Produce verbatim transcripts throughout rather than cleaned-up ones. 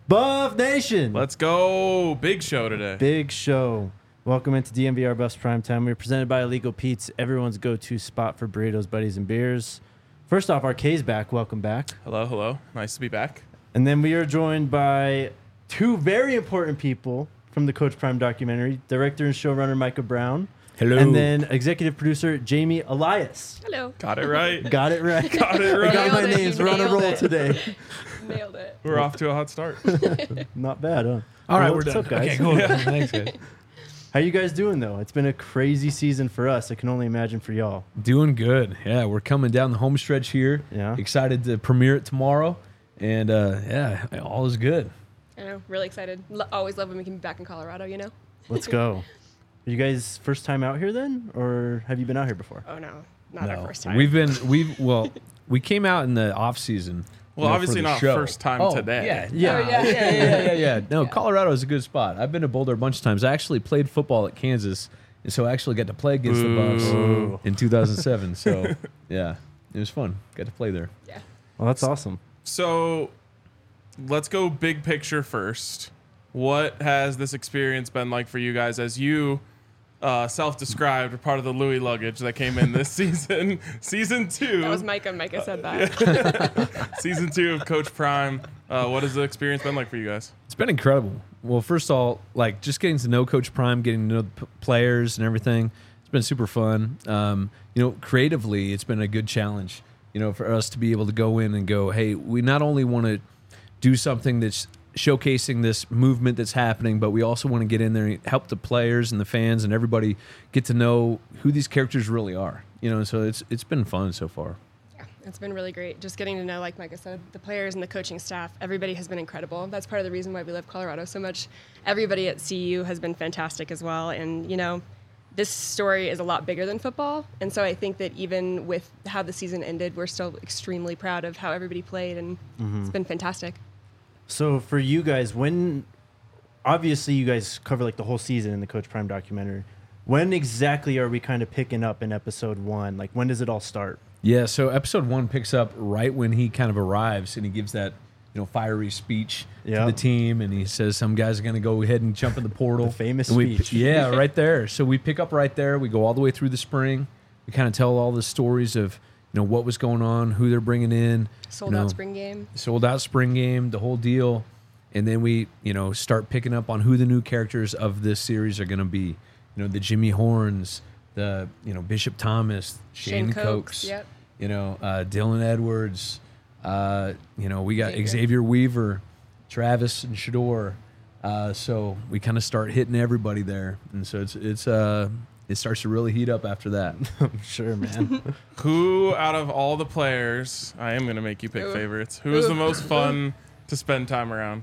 Buff Nation. Let's go. Big show today. Big show. Welcome into D M V R Buffs Primetime. We're presented by Illegal Pete's, everyone's go-to spot for burritos, buddies, and beers. First off, R K's back. Welcome back. Hello, hello. Nice to be back. And then we are joined by two very important people from the Coach Prime documentary, director and showrunner Micah Brown. Hello. And then executive producer Jamie Elias. Hello. Got it right. Got it right. Got it right. I got my Nailed it. names. You We're on a nailed roll it. today. Nailed it. We're off to a hot start. Not bad, huh? All right, Well, we're what's done. up, guys? Okay, cool. Thanks, guys. How you guys doing, though? It's been a crazy season for us. I can only imagine for y'all. Doing good. Yeah, we're coming down the home stretch here. Yeah. Excited to premiere it tomorrow. And uh, yeah, all is good. I know. Really excited. Lo- always love when we can be back in Colorado, you know? Let's go. Are you guys first time out here then? Or have you been out here before? Oh, no. Not our first time. We've been, we've, well, we came out in the off season. Well, you know, obviously for the not show. first time oh, today. Yeah, Yeah. yeah, Oh, yeah. yeah, yeah, yeah, yeah, yeah. No, Yeah. Colorado is a good spot. I've been to Boulder a bunch of times. I actually played football at Kansas, and so I actually got to play against the Buffs Ooh. in two thousand seven. So, yeah, it was fun. Got to play there. Yeah. Well, that's awesome. So let's go big picture first. What has this experience been like for you guys as you uh, self-described are part of the Louis luggage that came in this season? Season two. That was Micah. Micah said that. Season two of Coach Prime. Uh, what has the experience been like for you guys? It's been incredible. Well, first of all, like just getting to know Coach Prime, getting to know the p- players and everything. It's been super fun. Um, you know, creatively, it's been a good challenge. You know, for us to be able to go in and go, hey, we not only want to do something that's showcasing this movement that's happening, but we also want to get in there and help the players and the fans and everybody get to know who these characters really are. You know, so it's it's been fun so far. Yeah, it's been really great. Just getting to know, like Micah said, the players and the coaching staff. Everybody has been incredible. That's part of the reason why we love Colorado so much. Everybody at C U has been fantastic as well. And, you know, this story is a lot bigger than football. And so I think that even with how the season ended, we're still extremely proud of how everybody played. And it's been fantastic. So for you guys, when obviously you guys cover like the whole season in the Coach Prime documentary, when exactly are we kind of picking up in episode one? Like when does it all start? Yeah, so episode one picks up right when he kind of arrives and he gives that, you know, fiery speech Yeah. to the team, and he says some guys are going to go ahead and jump in the portal. The famous And we- speech. Yeah, right there. So we pick up right there. We go all the way through the spring. We kind of tell all the stories of, you know, what was going on, who they're bringing in. Sold you know, out spring game. sold out spring game, the whole deal, and then we, you know, start picking up on who the new characters of this series are going to be. You know, the Jimmy Horns, the you know Bishop Thomas, Shane, Shane Cokes, Cokes, yep. you know, uh, Dylan Edwards, uh, you know, we got Xavier. Xavier Weaver, Travis and Shador. Uh, so we kind of start hitting everybody there, and so it's it's uh it starts to really heat up after that. I'm sure, man. Who out of all the players, I am going to make you pick Ooh. favorites, who is the Ooh. most fun to spend time around?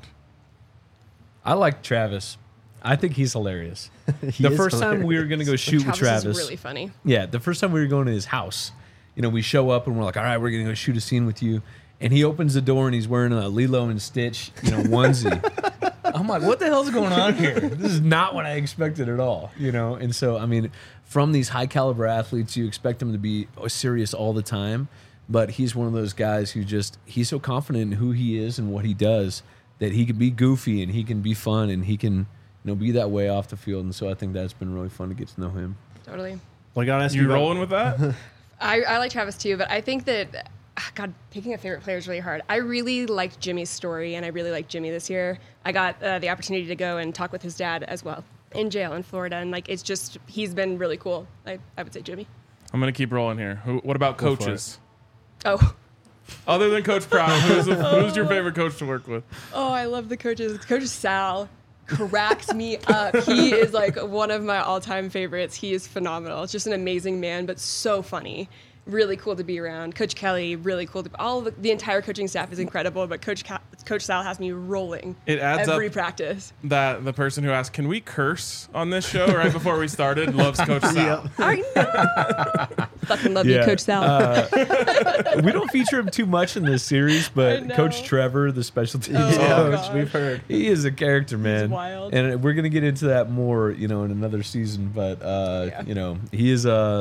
I like Travis. I think he's hilarious. He the is first time we hilarious. were going to go shoot Travis with Travis. is really funny. Yeah, the first time we were going to his house, you know, we show up and we're like, all right, we're going to go shoot a scene with you. And he opens the door and he's wearing a Lilo and Stitch, you know, onesie. I'm like, what the hell's going on here? This is not what I expected at all, you know? And so, I mean, from these high caliber athletes, you expect them to be serious all the time. But he's one of those guys who just, he's so confident in who he is and what he does that he can be goofy and he can be fun and he can, you know, be that way off the field. And so I think that's been really fun to get to know him. Totally. Well, I gotta ask you, You about- rolling with that? I, I like Travis too, but I think that, ah, God, picking a favorite player is really hard. I really liked Jimmy's story, and I really liked Jimmy this year. I got uh, the opportunity to go and talk with his dad as well in jail in Florida, and like it's just, he's been really cool. I, I would say Jimmy. I'm going to keep rolling here. Who, what about Go for coaches? Oh, Other than Coach Prime, who's, the, who's your favorite coach to work with? oh, I love the coaches. Coach Sal cracks me up. He is like one of my all-time favorites. He is phenomenal. It's just an amazing man, but so funny. Really cool to be around. Coach Kelly, really cool. To, all of the, the entire coaching staff is incredible, but Coach Ca- Coach Sal has me rolling It adds every up practice. that the person who asked, can we curse on this show right before we started, loves Coach Sal. I know. Fucking love you, Yeah. Coach Sal. Uh, we don't feature him too much in this series, I but know. Coach Trevor, the special teams Oh, coach, gosh. We've heard. he is a character, man. wild. And we're gonna get into that more, you know, in another season. But uh, Yeah. you know, he is uh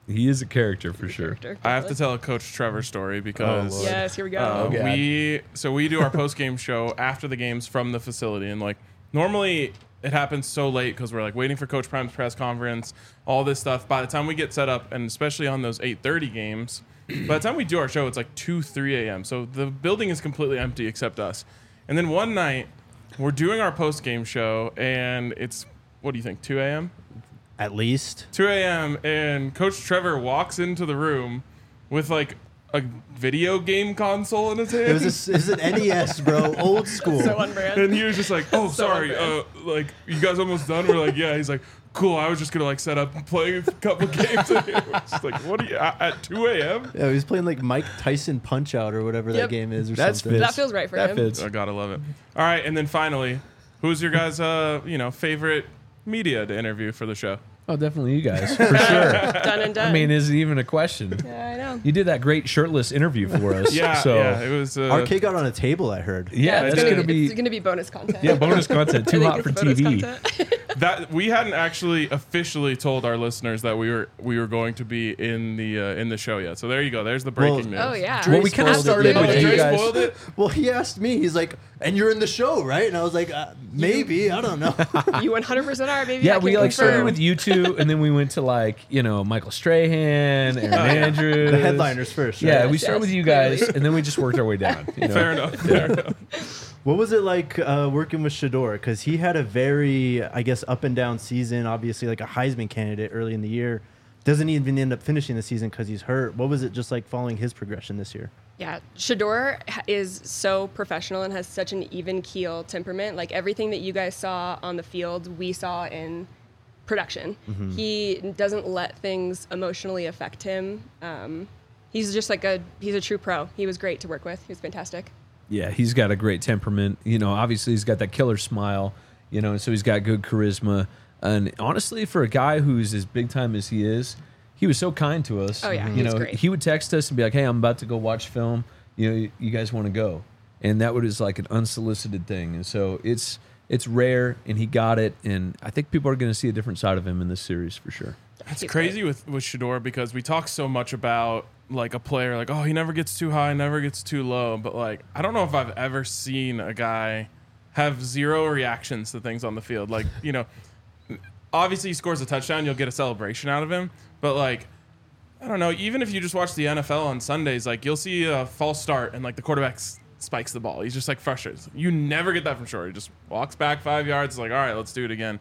He is a character for sure. Character, I have to definitely. tell a Coach Trevor story because Lord. Yes, here we go. Uh, Oh, God. we so we do our post game show after the games from the facility, and like normally it happens so late because we're like waiting for Coach Prime's press conference, all this stuff. By the time we get set up, and especially on those eight thirty games, by the time we do our show, it's like two, three a.m. So the building is completely empty except us. And then one night we're doing our post game show, and it's what do you think, two a.m. At least. two a.m. and Coach Trevor walks into the room with like a video game console in his hand. It was, a, it was an N E S, bro. Old school. So on brand. and he was just like, "Oh, So sorry, uh, like you guys almost done." We're like, "Yeah." He's like, "Cool. I was just gonna like set up and play a couple games." And it was just like, "What are you at, at two a.m.?" Yeah, he was playing like Mike Tyson Punch Out or whatever that Yep. game is or That's something. fits. That feels right for that him. fits. I gotta love it. All right, and then finally, who's your guys' uh, you know favorite media to interview for the show? Oh, definitely you guys, for sure. Done and done. I mean, is it even a question? yeah, I know. You did that great shirtless interview for us. Yeah, so, yeah, it was. Uh, Our kid got on a table, I heard. Yeah, it's that's gonna, gonna be it's gonna be bonus content. yeah bonus content. I Too think hot it's for bonus T V. content. that we hadn't actually officially told our listeners that we were we were going to be in the uh, in the show yet. So there you go. There's the breaking news. Oh yeah. Well, we kind of spoiled it, started with didn't you Dre guys. spoiled it. Well, he asked me. He's like, "And you're in the show, right?" And I was like, uh, "Maybe. I don't know." You one hundred percent are, baby. Yeah, I we can like started confirm. with you two, and then we went to like you know Michael Strahan, Aaron Andrews, The headliners first. Right? Yeah, we Yes, started with yes, you guys, clearly. and then we just worked our way down. You know? Fair enough. Fair enough. What was it like uh, working with Shador? Because he had a very, I guess, up and down season. Obviously, like a Heisman candidate early in the year. Doesn't even end up finishing the season because he's hurt. What was it just like following his progression this year? Yeah, Shador ha- is so professional and has such an even keel temperament. Like everything that you guys saw on the field, we saw in production. Mm-hmm. He doesn't let things emotionally affect him. Um, he's just like a he's a true pro. He was great to work with. He was fantastic. Yeah, he's got a great temperament. You know, obviously he's got that killer smile. You know, and so he's got good charisma. And honestly, for a guy who's as big time as he is, he was so kind to us. Oh, yeah, you he was know, great. he would text us and be like, "Hey, I'm about to go watch film. You know, you, you guys want to go?" And that was like an unsolicited thing. And so it's it's rare, and he got it. And I think people are going to see a different side of him in this series for sure. It's He's crazy great. with, with Shador because we talk so much about like a player like, oh, he never gets too high, never gets too low. But like, I don't know if I've ever seen a guy have zero reactions to things on the field. Like, you know, obviously he scores a touchdown, you'll get a celebration out of him. But like, I don't know, even if you just watch the N F L on Sundays, like you'll see a false start and like the quarterback s- spikes the ball. He's just like frustrated. You never get that from Shador. He just walks back five yards, like, all right, let's do it again.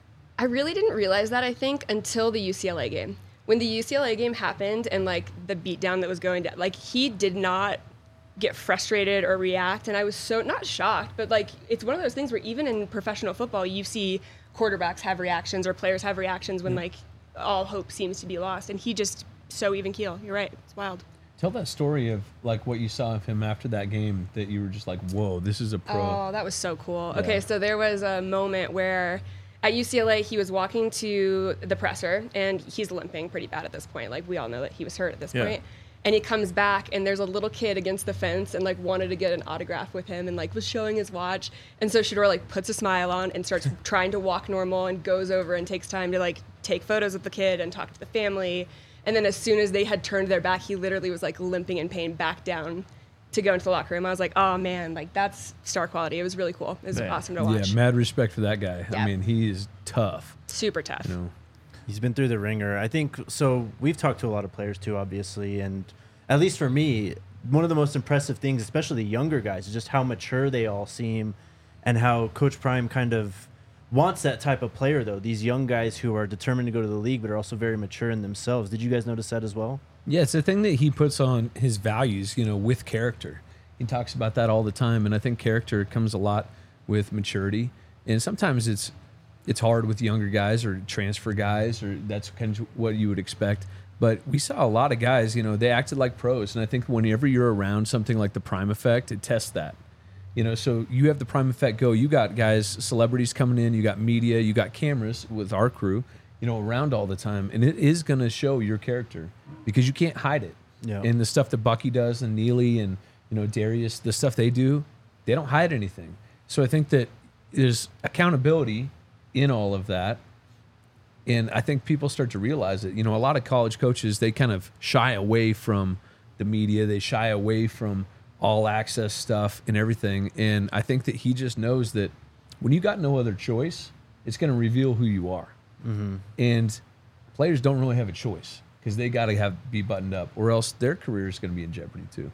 I really didn't realize that, I think, until the U C L A game. When the U C L A game happened and, like, the beatdown that was going down, like, he did not get frustrated or react. And I was so, not shocked, but, like, it's one of those things where even in professional football, you see quarterbacks have reactions or players have reactions when, like, all hope seems to be lost. And he just so even keel. You're right. It's wild. Tell that story of like what you saw of him after that game that you were just like, "Whoa, this is a pro." Oh, that was so cool. Yeah. Okay, so there was a moment where at U C L A he was walking to the presser and he's limping pretty bad at this point. Like we all know that he was hurt at this Yeah. point. And he comes back and there's a little kid against the fence and like wanted to get an autograph with him and like was showing his watch. And so Shador like puts a smile on and starts trying to walk normal and goes over and takes time to like take photos with the kid and talk to the family. And then as soon as they had turned their back, he literally was like limping in pain back down to go into the locker room. I was like, oh man, like that's star quality. It was really cool. It was Man. awesome to watch. Yeah, mad respect for that guy. I Yeah. mean, he is tough. Super tough. You know. He's been through the ringer. I think so. We've talked to a lot of players too, obviously, and at least for me, one of the most impressive things, especially the younger guys, is just how mature they all seem, and how Coach Prime kind of wants that type of player. Though these young guys who are determined to go to the league, but are also very mature in themselves. Did you guys notice that as well? Yeah, it's the thing that he puts on his values, you know, with character. He talks about that all the time, and I think character comes a lot with maturity. And sometimes it's it's hard with younger guys or transfer guys, or that's kind of what you would expect. But we saw a lot of guys, you know, they acted like pros, and I think whenever you're around something like the Prime Effect, it tests that. You know, so you have the Prime Effect go. You got guys, celebrities coming in. You got media. You got cameras with our crew, you know, around all the time. And it is going to show your character because you can't hide it. Yeah. And the stuff that Bucky does and Neely and, you know, Darius, the stuff they do, they don't hide anything. So I think that there's accountability in all of that. And I think people start to realize it. You know, a lot of college coaches, they kind of shy away from the media. They shy away from all access stuff and everything. And I think that he just knows that when you got no other choice, it's going to reveal who you are. Mm-hmm. And players don't really have a choice because they got to have be buttoned up, or else their career is going to be in jeopardy too.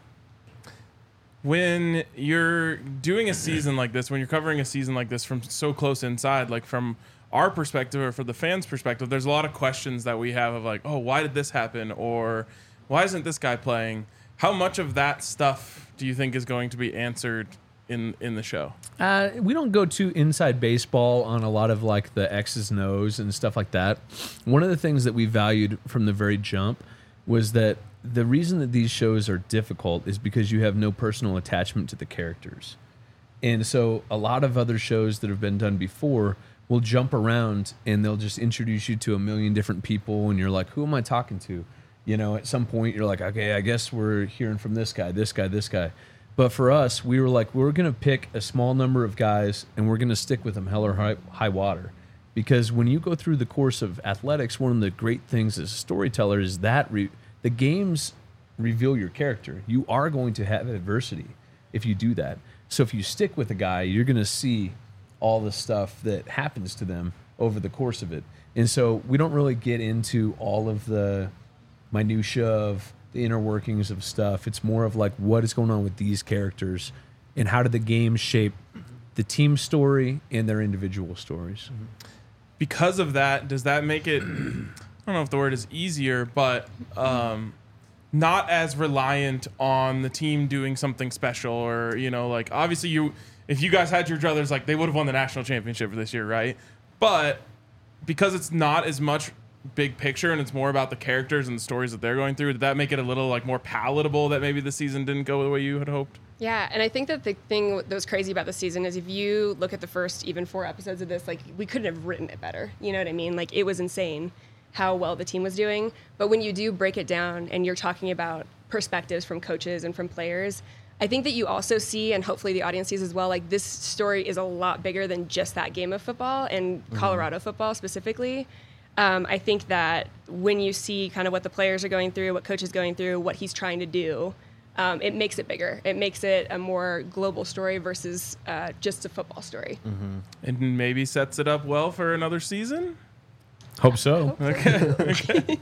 When you're doing a season like this, when you're covering a season like this from so close inside, like from our perspective or from the fans' perspective, there's a lot of questions that we have of like, oh, why did this happen? Or why isn't this guy playing? How much of that stuff do you think is going to be answered in, in the show? Uh, we don't go too inside baseball on a lot of like the X's and O's and stuff like that. One of the things that we valued from the very jump was that the reason that these shows are difficult is because you have no personal attachment to the characters. And so a lot of other shows that have been done before will jump around and they'll just introduce you to a million different people and you're like, who am I talking to? You know, at some point you're like, okay, I guess we're hearing from this guy, this guy, this guy. But for us, we were like, we're going to pick a small number of guys and we're going to stick with them hell or high, high water. Because when you go through the course of athletics, one of the great things as a storyteller is that re- the games reveal your character. You are going to have adversity if you do that. So if you stick with a guy, you're going to see all the stuff that happens to them over the course of it. And so we don't really get into all of the minutia of the inner workings of stuff. It's more of like what is going on with these characters and how do the games shape the team story and their individual stories. Because of that, does that make it, I don't know if the word is easier, but um, not as reliant on the team doing something special? Or, you know, like obviously you, if you guys had your druthers, like they would have won the national championship for this year, right? But because it's not as much big picture and it's more about the characters and the stories that they're going through, did that make it a little like more palatable that maybe the season didn't go the way you had hoped? Yeah, and I think that the thing that was crazy about the season is if you look at the first even four episodes of this, like we couldn't have written it better. You know what I mean? Like it was insane how well the team was doing. But when you do break it down and you're talking about perspectives from coaches and from players, I think that you also see, and hopefully the audience sees as well, like this story is a lot bigger than just that game of football and mm-hmm. Colorado football specifically. Um, I think that when you see kind of what the players are going through, what coach is going through, what he's trying to do, um, it makes it bigger. It makes it a more global story versus uh, just a football story. Mm-hmm. And maybe sets it up well for another season? Hope so. Okay. okay.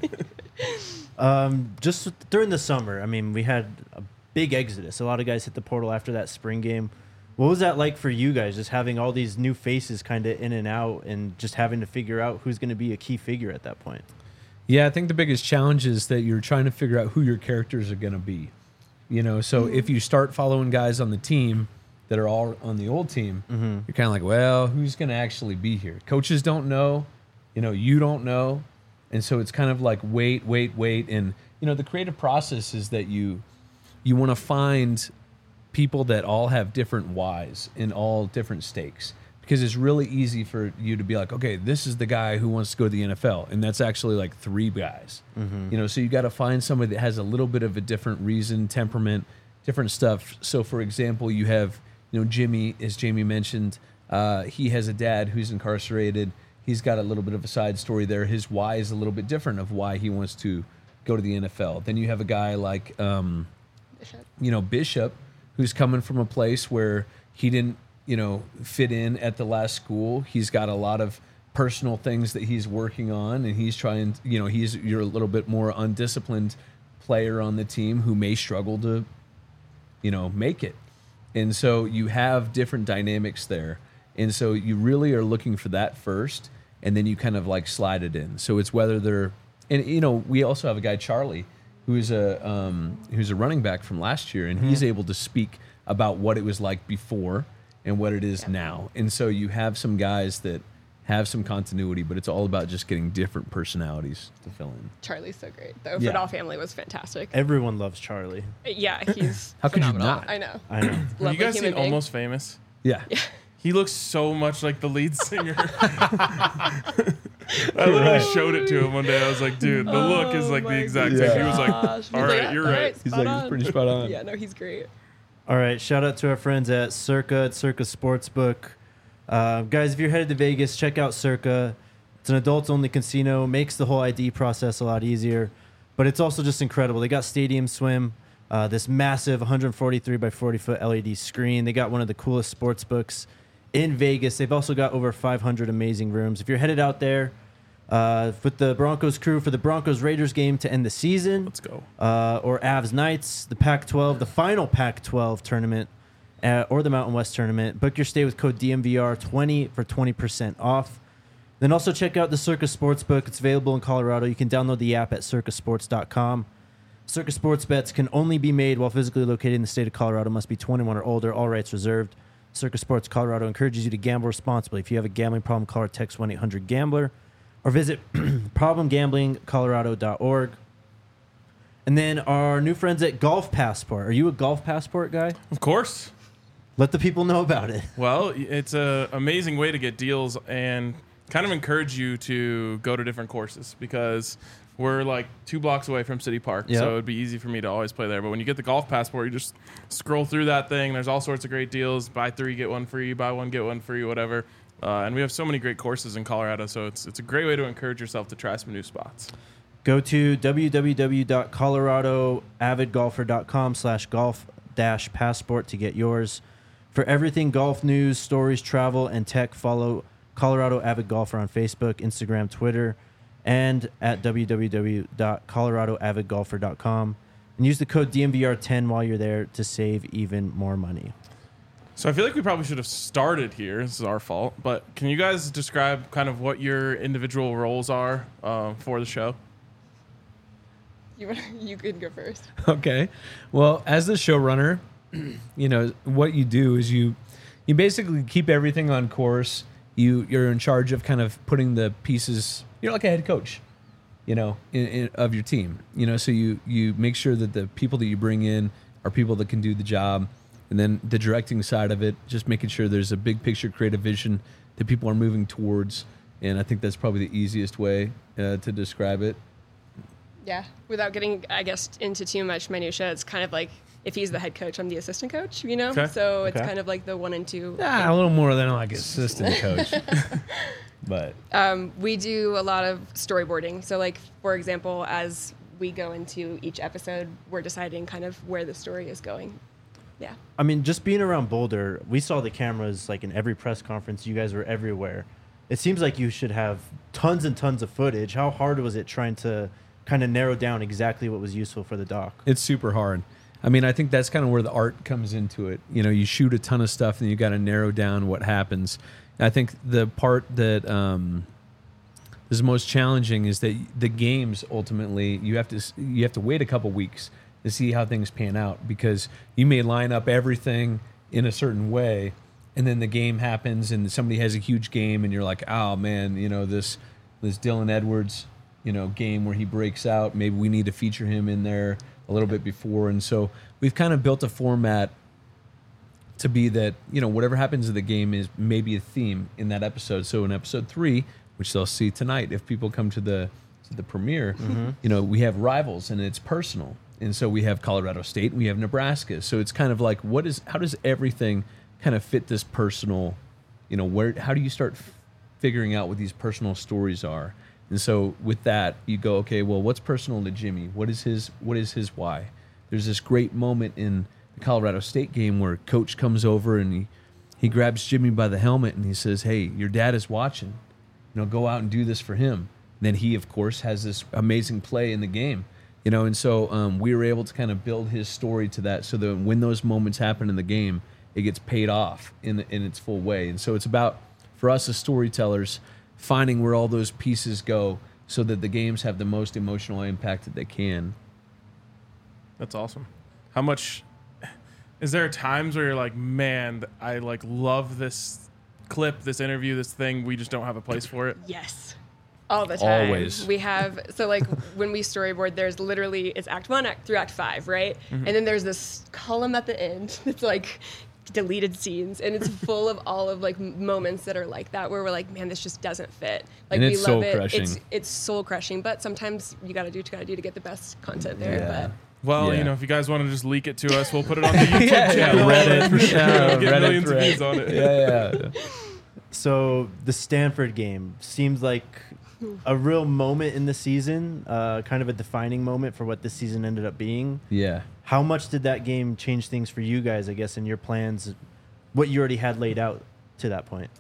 um, just during the summer, I mean, we had a big exodus. A lot of guys hit the portal after that spring game. What was that like for you guys, just having all these new faces kind of in and out and just having to figure out who's going to be a key figure at that point? Yeah, I think the biggest challenge is that you're trying to figure out who your characters are going to be. You know, so mm-hmm. if you start following guys on the team that are all on the old team, mm-hmm. you're kind of like, well, who's going to actually be here? Coaches don't know. You know, you don't know. And so it's kind of like wait, wait, wait. And, you know, the creative process is that you you want to find people that all have different whys and all different stakes, because it's really easy for you to be like, okay, this is the guy who wants to go to the N F L, and that's actually like three guys. Mm-hmm. You know, so you got to find somebody that has a little bit of a different reason, temperament, different stuff. So, for example, you have, you know, Jimmy, as Jamie mentioned, uh, he has a dad who's incarcerated. He's got a little bit of a side story there. His why is a little bit different of why he wants to go to the N F L. Then you have a guy like, um, Bishop. you know, Bishop, who's coming from a place where he didn't, you know, fit in at the last school. He's got a lot of personal things that he's working on, and he's trying, you know, he's you're a little bit more undisciplined player on the team who may struggle to, you know, make it. And so you have different dynamics there. And so you really are looking for that first, and then you kind of like slide it in. So it's whether they're, and you know, we also have a guy, Charlie, who's a um, who's a running back from last year, and mm-hmm. he's able to speak about what it was like before and what it is yeah. now. And so you have some guys that have some continuity, but it's all about just getting different personalities to fill in. Charlie's so great, though. Yeah. Football Family was fantastic. Everyone loves Charlie. Yeah, he's How could you phenomenal. not? I know. I know. Have you guys seen being. Almost Famous? Yeah. Yeah. He looks so much like the lead singer. I literally right. showed it to him one day. I was like, dude, the Oh look is like the my exact gosh. same. He was like, Gosh. all He's right, like, you're all right. He's spot like, he's on. pretty spot on. Yeah, no, he's great. All right, shout out to our friends at Circa, at Circa Sportsbook. Uh, guys, if you're headed to Vegas, check out Circa. It's an adults-only casino, makes the whole I D process a lot easier, but it's also just incredible. They got Stadium Swim, uh, this massive one forty-three by forty foot L E D screen. They got one of the coolest sports books in Vegas. They've also got over five hundred amazing rooms. If you're headed out there uh, with the Broncos crew for the Broncos-Raiders game to end the season, Let's go. uh, or Avs Knights, the Pac twelve, the final Pac twelve tournament, uh, or the Mountain West tournament, book your stay with code D M V R twenty for twenty percent off. Then also check out the Circus Sportsbook. It's available in Colorado. You can download the app at circus sports dot com. Circus Sports bets can only be made while physically located in the state of Colorado. Must be twenty-one or older. All rights reserved. Circus Sports Colorado encourages you to gamble responsibly. If you have a gambling problem, call or text one eight hundred gambler or visit problem gambling colorado dot org. And then our new friends at Golf Passport. Are you a Golf Passport guy? Of course. Let the people know about it. Well, it's an amazing way to get deals and kind of encourage you to go to different courses because we're like two blocks away from City Park. Yep. So it'd be easy for me to always play there. But when you get the Golf Passport, you just scroll through that thing. There's all sorts of great deals. Buy three, get one free. Buy one, get one free, whatever. Uh, and we have so many great courses in Colorado. So it's it's a great way to encourage yourself to try some new spots. Go to w w w dot colorado avid golfer dot com slash golf dash passport to get yours. For everything golf news, stories, travel, and tech, follow Colorado Avid Golfer on Facebook, Instagram, Twitter, and at w w w dot colorado avid golfer dot com. And use the code D M V R ten while you're there to save even more money. So I feel like we probably should have started here. This is our fault. But can you guys describe kind of what your individual roles are uh, for the show? You you can go first. Okay. Well, as the showrunner, you know, what you do is you you basically keep everything on course. You you're in charge of kind of putting the pieces. You're like a head coach, you know, in, in, of your team. You know, so you you make sure that the people that you bring in are people that can do the job, and then the directing side of it, just making sure there's a big picture, creative vision that people are moving towards. And I think that's probably the easiest way uh, to describe it. Yeah, without getting, I guess, into too much minutia, it's kind of like if he's the head coach, I'm the assistant coach, you know? Okay. So it's Okay. kind of like the one and two. Ah, a little more than like assistant coach, but Um, we do a lot of storyboarding. So, like, for example, as we go into each episode, we're deciding kind of where the story is going. Yeah. I mean, just being around Boulder, we saw the cameras like in every press conference. You guys were everywhere. It seems like you should have tons and tons of footage. How hard was it trying to kind of narrow down exactly what was useful for the doc? it's super hard. I mean, I think that's kind of where the art comes into it. You know, you shoot a ton of stuff and you got to narrow down what happens. And I think the part that um, is most challenging is that the games ultimately you have to you have to wait a couple weeks to see how things pan out, because you may line up everything in a certain way, and then the game happens and somebody has a huge game and you're like, oh man, you know, this this Dylan Edwards, you know, game where he breaks out, maybe we need to feature him in there a little bit before. And so we've kind of built a format to be that, you know, whatever happens in the game is maybe a theme in that episode. So in episode three, which they'll see tonight, if people come to the to the premiere, mm-hmm. you know, we have rivals and it's personal. And so we have Colorado State and we have Nebraska. So it's kind of like, what is, how does everything kind of fit this personal, you know, where, how do you start f- figuring out what these personal stories are? And so with that, you go, okay, well, what's personal to Jimmy? What is his what is his why? There's this great moment in the Colorado State game where coach comes over and he, he grabs Jimmy by the helmet and he says, hey, your dad is watching. You know, go out and do this for him. And then he, of course, has this amazing play in the game. You know, and so um, we were able to kind of build his story to that so that when those moments happen in the game, it gets paid off in the, in its full way. And so it's about, for us as storytellers, finding where all those pieces go so that the games have the most emotional impact that they can. That's awesome. How much is there times where you're like, man, I like love this clip, this interview, this thing, we just don't have a place for it? Yes. All the time. Always. We have, so like when we storyboard, there's literally, it's act one, act through act five, right? Mm-hmm. And then there's this column at the end that's like deleted scenes, and it's full of all of like m- moments that are like that, where we're like, man, this just doesn't fit. Like, And we it's love soul-crushing. it. It's it's soul crushing, but sometimes you got to do what you got to do to get the best content there. Yeah. Well, Yeah. you know, if you guys want to just leak it to us, we'll put it on the YouTube Yeah, yeah, channel. Reddit, For sure. yeah, We'll get Reddit millions thread. of views on it. Yeah, yeah. So the Stanford game seems like a real moment in the season, uh, kind of a defining moment for what this season ended up being. Yeah. How much did that game change things for you guys, I guess, in your plans, what you already had laid out to that point?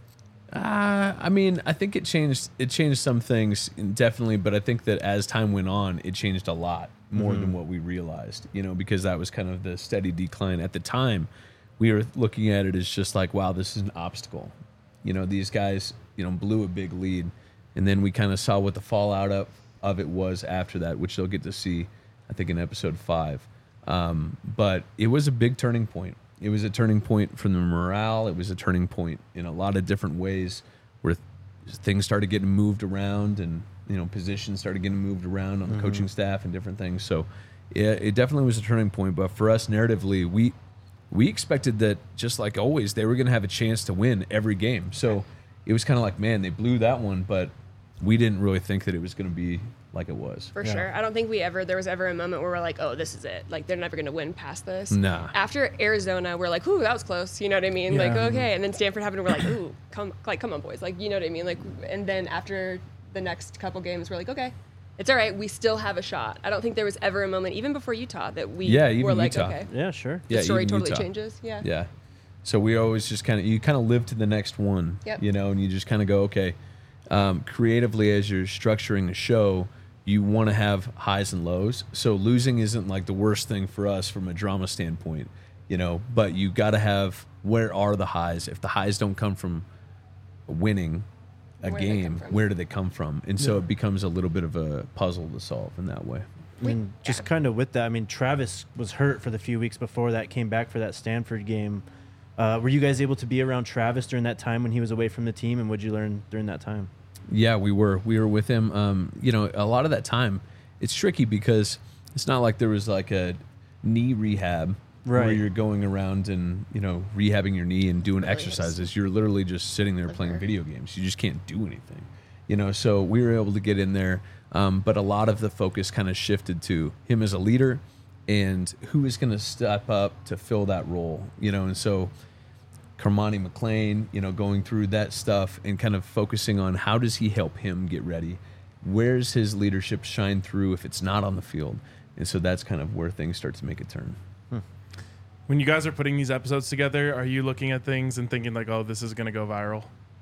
Uh, I mean, I think it changed. It changed some things, definitely, but I think that as time went on, it changed a lot more than what we realized. You know, because that was kind of the steady decline at the time. We were looking at it as just like, wow, this is an obstacle. You know, these guys, you know, blew a big lead, and then we kind of saw what the fallout of of it was after that, which they'll get to see, I think, in episode five. Um, but it was a big turning point. It was a turning point from the morale. It was a turning point in a lot of different ways where th- things started getting moved around, and you know, positions started getting moved around on the mm-hmm. coaching staff and different things. So yeah, it definitely was a turning point. But for us, narratively, we we expected that, just like always, they were going to have a chance to win every game. So it was kind of like, man, they blew that one, but we didn't really think that it was going to be like it was. For yeah. sure. I don't think we ever, there was ever a moment where we're like, oh, this is it. Like, they're never going to win past this. Nah. After Arizona, we're like, ooh, that was close. You know what I mean? Yeah. Like, okay. And then Stanford happened, we're like, ooh, come, like, come on, boys. Like, you know what I mean? Like, and then after the next couple games, we're like, okay, it's all right. We still have a shot. I don't think there was ever a moment, even before Utah, that we yeah, even were like, Utah. okay. Yeah, sure. The Yeah, story even totally Utah. changes. Yeah. Yeah. So we always just kind of, you kind of live to the next one, Yep. you know, and you just kind of go, okay, um, creatively as you're structuring the show, you want to have highs and lows. So losing isn't like the worst thing for us from a drama standpoint, you know, but you got to have, where are the highs? If the highs don't come from winning a Where do they come game, from? where do they come from? And so Yeah. it becomes a little bit of a puzzle to solve in that way. I mean, We- just yeah. kind of with that, I mean, Travis was hurt for the few weeks before that, came back for that Stanford game. Uh, were you guys able to be around Travis during that time when he was away from the team, and what'd you learn during that time? Yeah, we were. We were with him. Um, you know, a lot of that time, it's tricky because it's not like there was like a knee rehab where Right. you're going around and, you know, rehabbing your knee and doing Really is. exercises. You're literally just sitting there playing Liver. video games. You just can't do anything. You know, so we were able to get in there, um, but a lot of the focus kind of shifted to him as a leader and who is going to step up to fill that role, you know, and so Carmani McLean, you know, going through that stuff and kind of focusing on how does he help him get ready? Where's his leadership shine through if it's not on the field? And so that's kind of where things start to make a turn. When you guys are putting these episodes together, are you looking at things and thinking like, oh, this is going to go viral?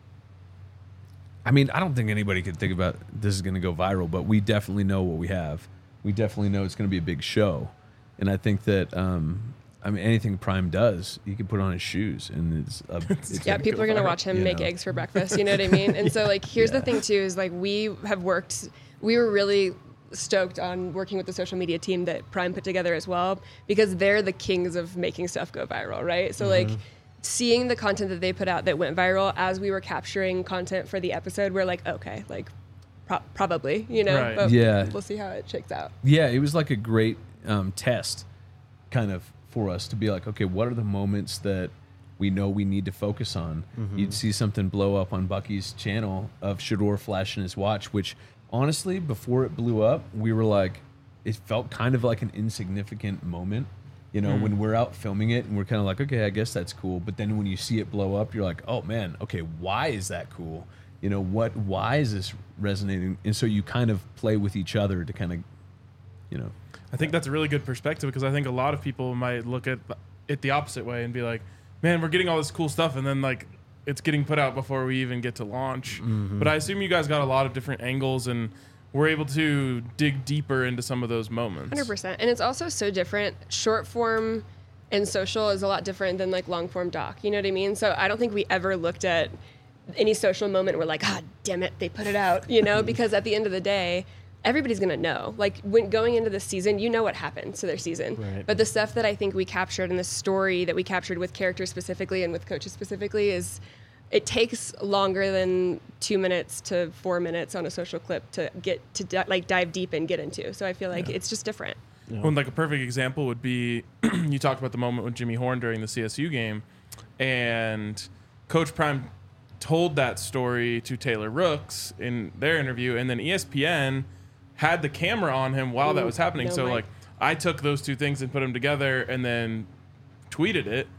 I mean, I don't think anybody could think about this is going to go viral, but we definitely know what we have. We definitely know it's going to be a big show. And I think that, um, I mean, anything Prime does, he can put on his shoes and it's, a, it's Yeah, gonna people go are gonna viral, watch him you make know? eggs for breakfast. You know what I mean? And so, like, here's Yeah. the thing too: is like we have worked. We were really stoked on working with the social media team that Prime put together as well, because they're the kings of making stuff go viral, right? So, like, seeing the content that they put out that went viral as we were capturing content for the episode, we're like, okay, like, pro- probably, you know, Right. but Yeah. we'll see how it shakes out. Yeah, it was like a great um, test kind of for us to be like, okay, what are the moments that we know we need to focus on? Mm-hmm. You'd see something blow up on Bucky's channel of Shador flashing his watch, which honestly, before it blew up, we were like, it felt kind of like an insignificant moment. You know, Mm. when we're out filming it and we're kind of like, okay, I guess that's cool. But then when you see it blow up, you're like, oh man, okay, why is that cool? You know, what, why is this resonating? And so you kind of play with each other to kind of, you know. I think that's a really good perspective, because I think a lot of people might look at it the opposite way and be like, man, we're getting all this cool stuff, and then like it's getting put out before we even get to launch. Mm-hmm. But I assume you guys got a lot of different angles and were able to dig deeper into some of those moments. one hundred percent. And it's also so different. Short form and social is a lot different than like long form doc. You know what I mean? So I don't think we ever looked at any social moment where like, God damn it, they put it out, you know, because at the end of the day, everybody's going to know. Like, when going into the season, you know what happened to their season. Right. But the stuff that I think we captured and the story that we captured with characters specifically and with coaches specifically is, it takes longer than two minutes to four minutes on a social clip to get to di- like dive deep and get into. So I feel like it's just different. Well, like a perfect example would be you talked about the moment with Jimmy Horn during the C S U game, and Coach Prime told that story to Taylor Rooks in their interview, and then E S P N had the camera on him while that Ooh, was happening. no so way. like I took those two things and put them together and then tweeted it.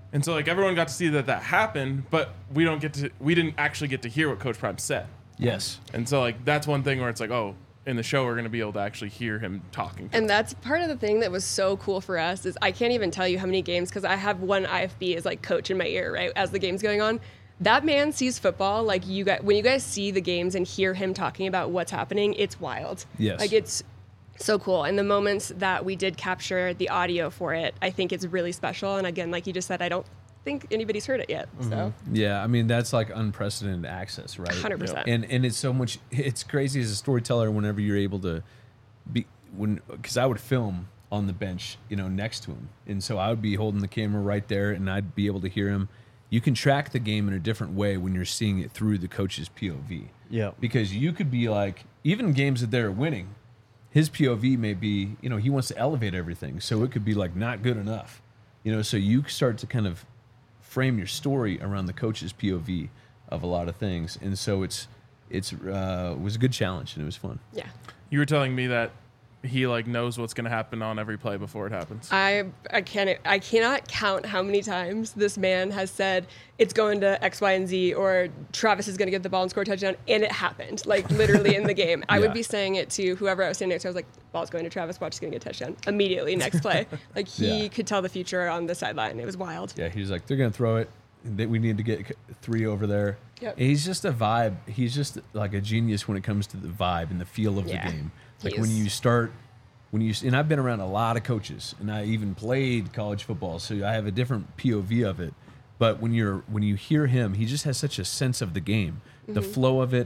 And so like everyone got to see that that happened, but we don't get to we didn't actually get to hear what Coach Prime said. Yes. And so like that's one thing where it's like, oh, in the show we're going to be able to actually hear him talking. To And us. that's part of the thing that was so cool for us is I can't even tell you how many games because I have one I F B as like coach in my ear, right, as the game's going on. That man sees football like you guys. When you guys see the games and hear him talking about what's happening, it's wild. Yes. Like it's so cool. And the moments that we did capture the audio for it, I think it's really special. And again, like you just said, I don't think anybody's heard it yet. So Yeah, I mean that's like unprecedented access, right? one hundred percent. And and it's so much. It's crazy as a storyteller whenever you're able to be when because I would film on the bench, you know, next to him, and so I would be holding the camera right there, and I'd be able to hear him. You can track the game in a different way when you're seeing it through the coach's P O V. Yeah. Because you could be like, even games that they're winning, his P O V may be, you know, he wants to elevate everything. So it could be like not good enough. You know, so you start to kind of frame your story around the coach's P O V of a lot of things. And so it's, it's, uh, it was a good challenge and it was fun. Yeah. You were telling me that he like knows what's going to happen on every play before it happens. I I can't I cannot count how many times this man has said it's going to X, Y, and Z, or Travis is going to get the ball and score a touchdown, and it happened like literally in the game. I Yeah. would be saying it to whoever I was standing next to. I was like, "Ball's going to Travis. Watch, he's going to get a touchdown immediately next play." Like he Yeah. could tell the future on the sideline. It was wild. Yeah, he was like, they're going to throw it. That we need to get three over there. Yep. And he's just a vibe. He's just like a genius when it comes to the vibe and the feel of Yeah, the game. he Like when is. you start, when you and I've been around a lot of coaches, and I even played college football, so I have a different P O V of it. But when you're when you hear him, he just has such a sense of the game, the Mm-hmm. flow of it,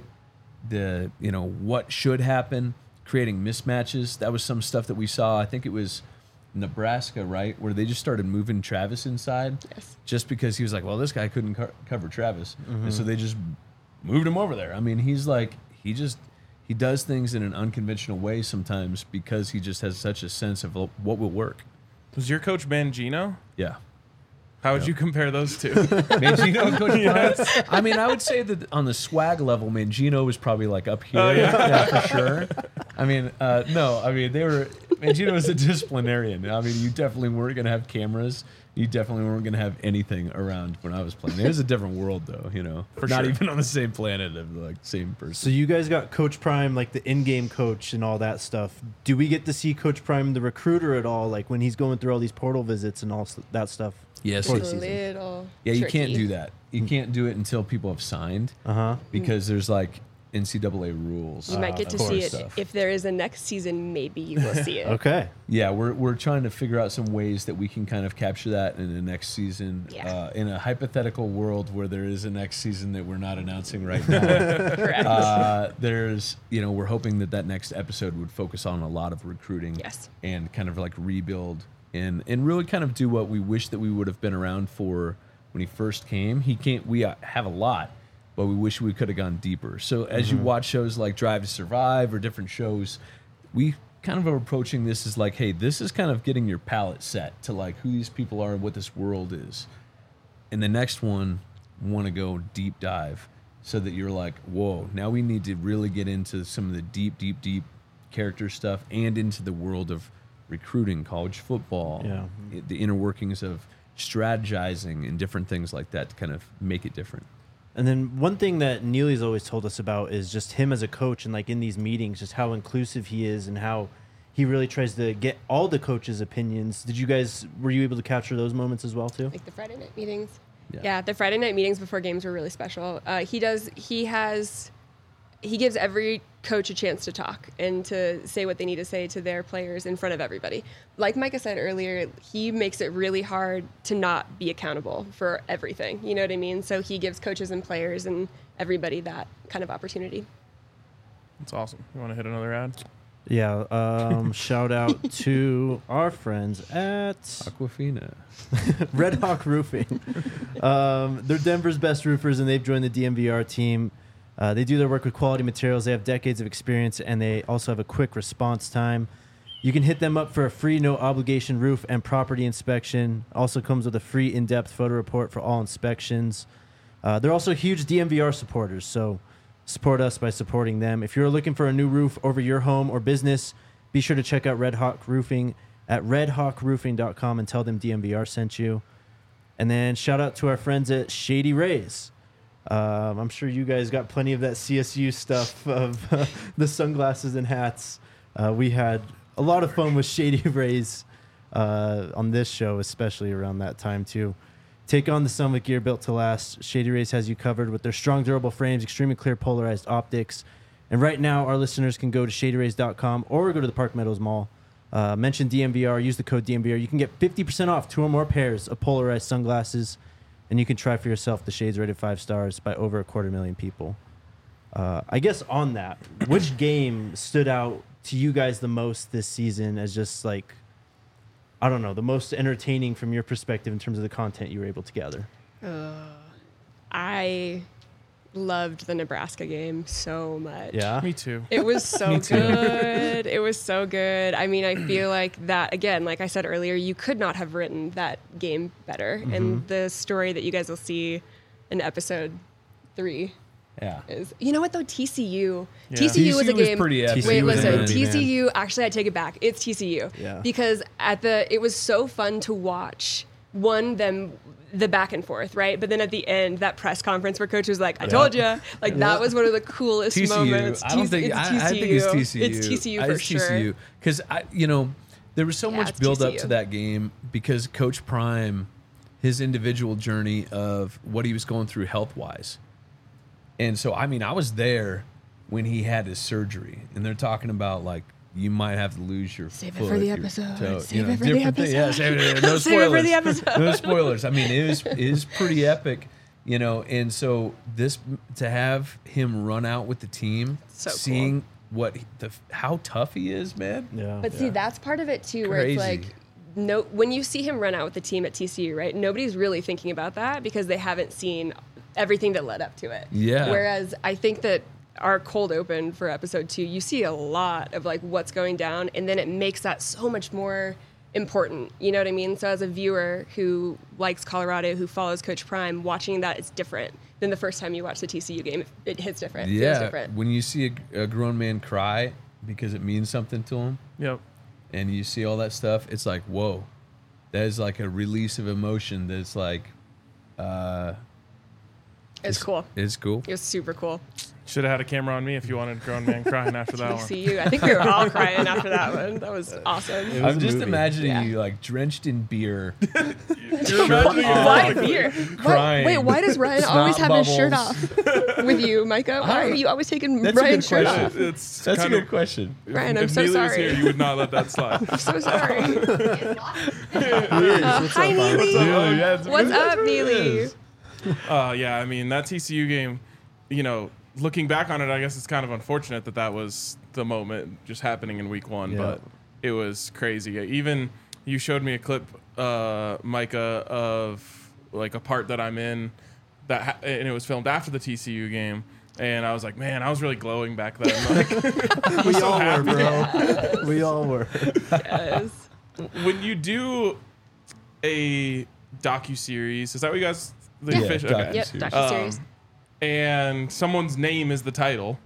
the you know what should happen, creating mismatches. That was some stuff that we saw. I think it was Nebraska, right, where they just started moving Travis inside, Yes. just because he was like, well, this guy couldn't co- cover Travis, and so they just moved him over there. I mean, he's like, he just he does things in an unconventional way sometimes because he just has such a sense of what will work. Was your coach Mangino? Yeah. How would you compare those two? Mangino and Coach Prime. I mean, I would say that on the swag level, Mangino was probably like up here, Oh, yeah. yeah, for sure. I mean, uh, no, I mean they were. Mangino was a disciplinarian. I mean, you definitely weren't going to have cameras. You definitely weren't going to have anything around when I was playing. It was a different world, though. You know, For not sure. even on the same planet of like same person. So you guys got Coach Prime, like the in-game coach and all that stuff. Do we get to see Coach Prime, the recruiter, at all? Like when he's going through all these portal visits and all s- that stuff? Yes. For It's the a season. little Yeah, you can't tricky. do that. You can't do it until people have signed Uh huh. because there's like N C double A rules. You might get to of see course. it Stuff. if there is a next season. Maybe you will see it. Okay. Yeah, we're we're trying to figure out some ways that we can kind of capture that in the next season. Yeah. Uh, in a hypothetical world where there is a next season that we're not announcing right now, Correct. uh, there's you know we're hoping that that next episode would focus on a lot of recruiting. Yes. And kind of like rebuild and and really kind of do what we wish that we would have been around for when he first came. He can't. We uh, have a lot. But we wish we could have gone deeper. So as you watch shows like Drive to Survive or different shows, we kind of are approaching this as like, hey, this is kind of getting your palette set to like who these people are and what this world is. And the next one, want to go deep dive so that you're like, whoa, now we need to really get into some of the deep, deep, deep character stuff and into the world of recruiting, college football, Yeah. i- the inner workings of strategizing and different things like that to kind of make it different. And then one thing that Neely's always told us about is just him as a coach and like in these meetings, just how inclusive he is and how he really tries to get all the coaches' opinions. Did you guys, were you able to capture those moments as well too? Like the Friday night meetings. Yeah. Yeah, the Friday night meetings before games were really special. Uh, he does. He has. He gives every coach a chance to talk and to say what they need to say to their players in front of everybody. Like Micah said earlier, he makes it really hard to not be accountable for everything. You know what I mean? So he gives coaches and players and everybody that kind of opportunity. That's awesome. You want to hit another ad? Yeah. Um, shout out to our friends at Aquafina. Red Hawk Roofing. Um, they're Denver's best roofers, and they've joined the D M V R team. Uh, they do their work with quality materials. They have decades of experience, and they also have a quick response time. You can hit them up for a free, no-obligation roof and property inspection. Also comes with a free in-depth photo report for all inspections. Uh, they're also huge D M V R supporters, so support us by supporting them. If you're looking for a new roof over your home or business, be sure to check out Red Hawk Roofing at red hawk roofing dot com and tell them D M V R sent you. And then shout out to our friends at Shady Rays. Um, I'm sure you guys got plenty of that C S U stuff of uh, the sunglasses and hats. Uh, we had a lot of fun with Shady Rays uh, on this show, especially around that time too. Take on the sun with gear built to last. Shady Rays has you covered with their strong, durable frames, extremely clear polarized optics. And right now, our listeners can go to shady rays dot com or go to the Park Meadows Mall. Uh, mention D M V R, use the code D M V R. You can get fifty percent off two or more pairs of polarized sunglasses, and you can try for yourself the shades rated five stars by over a quarter million people. Uh, I guess on that, which game stood out to you guys the most this season as just like, I don't know, the most entertaining from your perspective in terms of the content you were able to gather? Uh, I loved the Nebraska game so much. Yeah? Me too. It was so Me too. good. It was so good. I mean, I feel like that, again, like I said earlier, you could not have written that game better. Mm-hmm. And the story that you guys will see in episode three Yeah. is, you know what though, T C U. Yeah. T C U was a T C U was game. pretty epic. T C U Wait, was listen, a T movie, C U, actually I take it back. It's T C U. Yeah. Because at the, it was so fun to watch, one, them, the back and forth, right? But then at the end, that press conference where coach was like, I told you. Like, that was one of the coolest T C U. moments. I don't T- think it's I, I think it's T C U. It's T C U I- for it's sure. T C U because I, you know, there was so Yeah, much it's build up T C U. to that game because Coach Prime, his individual journey of what he was going through health wise, and so I mean I was there when he had his surgery, and they're talking about like you might have to lose your Save it foot, for the your episode. toe, Save you know, it for the different thing- Yeah, episode. save it. No Save it for the spoilers. episode. No spoilers. I mean, it was it is pretty epic, you know. And so this to have him run out with the team, So cool. seeing what he- the how tough he is, man. Yeah. But see, that's part of it too, where it's Crazy. like, no, when you see him run out with the team at T C U, right? Nobody's really thinking about that because they haven't seen everything that led up to it. Yeah. Whereas I think that our cold open for episode two, you see a lot of like what's going down, and then it makes that so much more important. You know what I mean? So as a viewer who likes Colorado, who follows Coach Prime, watching that is different than the first time you watch the T C U game. It, it hits different. It feels Yeah, different. when you see a, a grown man cry because it means something to him, Yep. and you see all that stuff, it's like whoa, that is like a release of emotion. That's like, uh, It's cool. it's cool. It was super cool. Should have had a camera on me if you wanted grown man crying after that one. T C U. I think we were all crying after that one. That was awesome. It was I'm a just movie. imagining Yeah. you like drenched in beer, You're imagining it. Why off, beer? crying. Why, wait, why does Ryan Snot always have his shirt bubbles. off with you, Micah? Why are you always taking That's a Ryan's good shirt question. off? It's That's a kind good of, question. Ryan, I'm if so Neely was sorry. here, you would not let that slide. I'm so sorry. Uh, What's hi, up, Bob? Neely. Neely, yeah, it's- What's up, it Neely? is. Uh, yeah, I mean, that T C U game, you know, looking back on it, I guess it's kind of unfortunate that that was the moment just happening in week one, Yeah. but it was crazy. Even you showed me a clip, uh, Micah, of like a part that I'm in, that ha- and it was filmed after the T C U game. And I was like, man, I was really glowing back then. Like, We all were, bro. We all were. Yes. when you do a docu-series, is that what you guys? The Yeah, official- docu- Yep, Series. docuseries. Um, and someone's name is the title.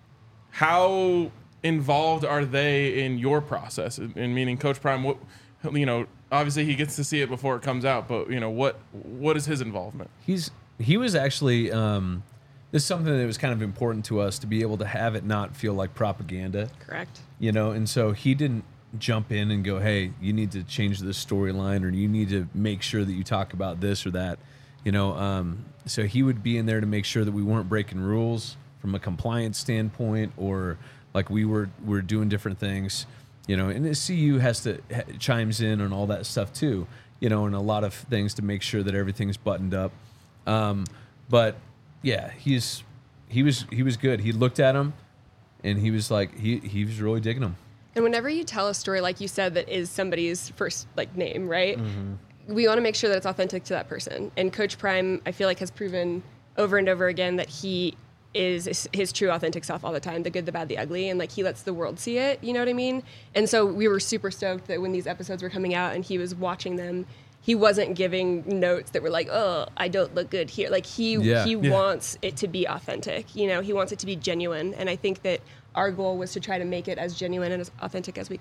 How involved are they in your process? In meaning, Coach Prime, what you know, obviously he gets to see it before it comes out, but you know, what what is his involvement? He's he was actually um, this is something that was kind of important to us to be able to have it not feel like propaganda, Correct. you know. And so he didn't jump in and go, "Hey, you need to change this storyline, or you need to make sure that you talk about this or that," you know. Um, so he would be in there to make sure that we weren't breaking rules from a compliance standpoint, or like we were we're doing different things, you know. And the C U has to ha- chimes in on all that stuff too, you know, and a lot of things to make sure that everything's buttoned up. Um, but yeah, he's he was he was good. He looked at him, and he was like he he was really digging him. And whenever you tell a story, like you said, that is somebody's first like name, right? Mm-hmm. We want to make sure that it's authentic to that person. And Coach Prime, I feel like, has proven over and over again that he is his- his true authentic self all the time, the good, the bad, the ugly, and like he lets the world see it, you know what I mean? And so we were super stoked that when these episodes were coming out and he was watching them, he wasn't giving notes that were like, oh, I don't look good here. Like he Yeah. he Yeah. wants it to be authentic, you know, he wants it to be genuine. And I think that our goal was to try to make it as genuine and as authentic as we could.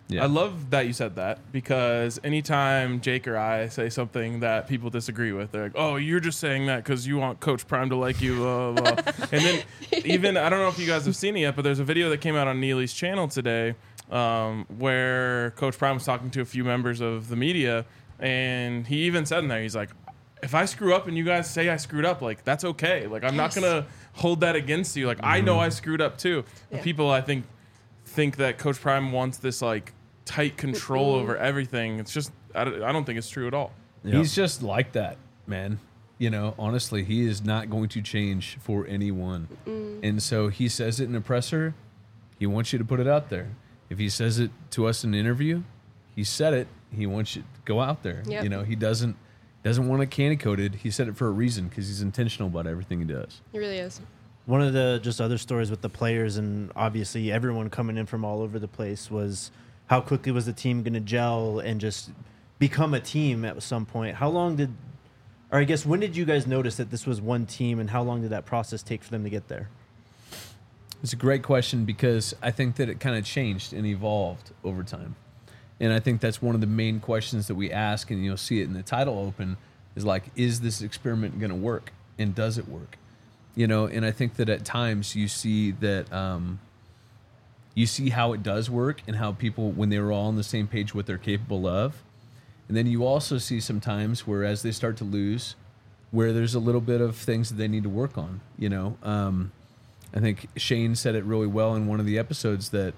Yeah. I love that you said that, because anytime Jake or I say something that people disagree with, they're like, "Oh, you're just saying that because you want Coach Prime to like you." Blah, blah, blah. And then even, I don't know if you guys have seen it yet, but there's a video that came out on Neely's channel today um, where Coach Prime was talking to a few members of the media, and he even said in there, he's like, if I screw up and you guys say I screwed up, like, that's okay. Like, I'm Yes. not going to hold that against you. Like, I know I screwed up too. But Yeah. people, I think, think that Coach Prime wants this, like, tight control over everything. It's just, I don't, I don't think it's true at all. Yeah. He's just like that, man. You know, honestly, he is not going to change for anyone. And so he says it in a presser. He wants you to put it out there. If he says it to us in an interview, he said it. He wants you to go out there. Yep. You know, he doesn't doesn't want it candy coated. He said it for a reason because he's intentional about everything he does. It really is. One of the just other stories with the players and obviously everyone coming in from all over the place was how quickly was the team going to gel and just become a team at some point. How long did, or I guess when did you guys notice that this was one team, and how long did that process take for them to get there? It's a great question because I think that it kind of changed and evolved over time. And I think that's one of the main questions that we ask, and you'll see it in the title open, is like, is this experiment going to work? And does it work? You know, and I think that at times you see that um, you see how it does work and how people, when they were all on the same page, what they're capable of. And then you also see sometimes where as they start to lose, where there's a little bit of things that they need to work on, you know. Um, I think Shane said it really well in one of the episodes that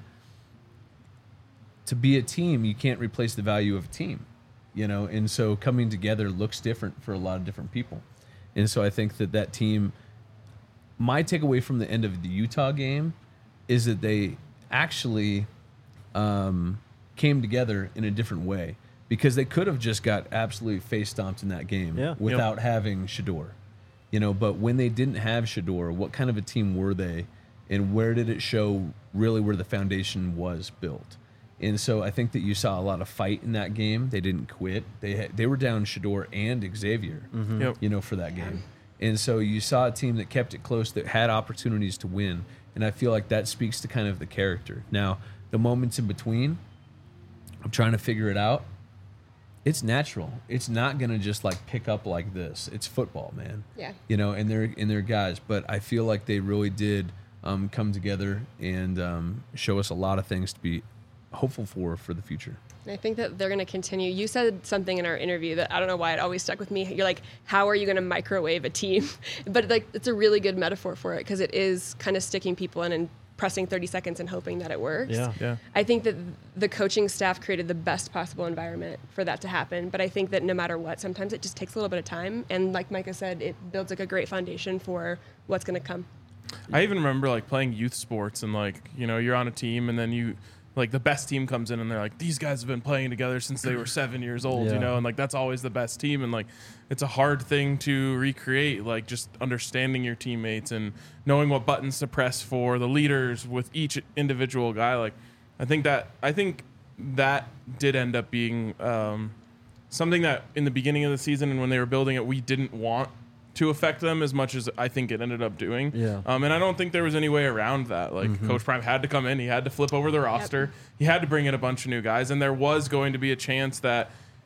to be a team, you can't replace the value of a team, you know. And so coming together looks different for a lot of different people. And so I think that that team, my takeaway from the end of the Utah game is that they actually um, came together in a different way, because they could have just got absolutely face stomped in that game Yeah. without having Shador. You know, but when they didn't have Shador, what kind of a team were they, and where did it show really where the foundation was built? And so I think that you saw a lot of fight in that game. They didn't quit. They had, they were down Shador and Xavier, Yep. you know, for that game. And so you saw a team that kept it close, that had opportunities to win. And I feel like that speaks to kind of the character. Now, the moments in between, I'm trying to figure it out. It's natural. It's not going to just like pick up like this. It's football, man. Yeah. You know, and they're and they're guys, but I feel like they really did um, come together and um, show us a lot of things to be hopeful for for the future. And I think that they're going to continue. You said something in our interview that I don't know why it always stuck with me. You're like, how are you going to microwave a team? But like, it's a really good metaphor for it, because it is kind of sticking people in and pressing thirty seconds and hoping that it works. Yeah. Yeah. I think that the coaching staff created the best possible environment for that to happen. But I think that no matter what, sometimes it just takes a little bit of time. And like Micah said, it builds like a great foundation for what's going to come. I even remember like playing youth sports, and like, you know, you're on a team, and then you, like, the best team comes in and they're like, these guys have been playing together since they were seven years old, Yeah. you know, and like that's always the best team. And like, it's a hard thing to recreate, like just understanding your teammates and knowing what buttons to press for the leaders with each individual guy. Like, I think that, I think that did end up being um, something that in the beginning of the season and when they were building it, we didn't want to affect them as much as I think it ended up doing. Yeah. Um, and I don't think there was any way around that. Like, Mm-hmm. Coach Prime had to come in. He had to flip over the roster. He had to bring in a bunch of new guys. And there was going to be a chance that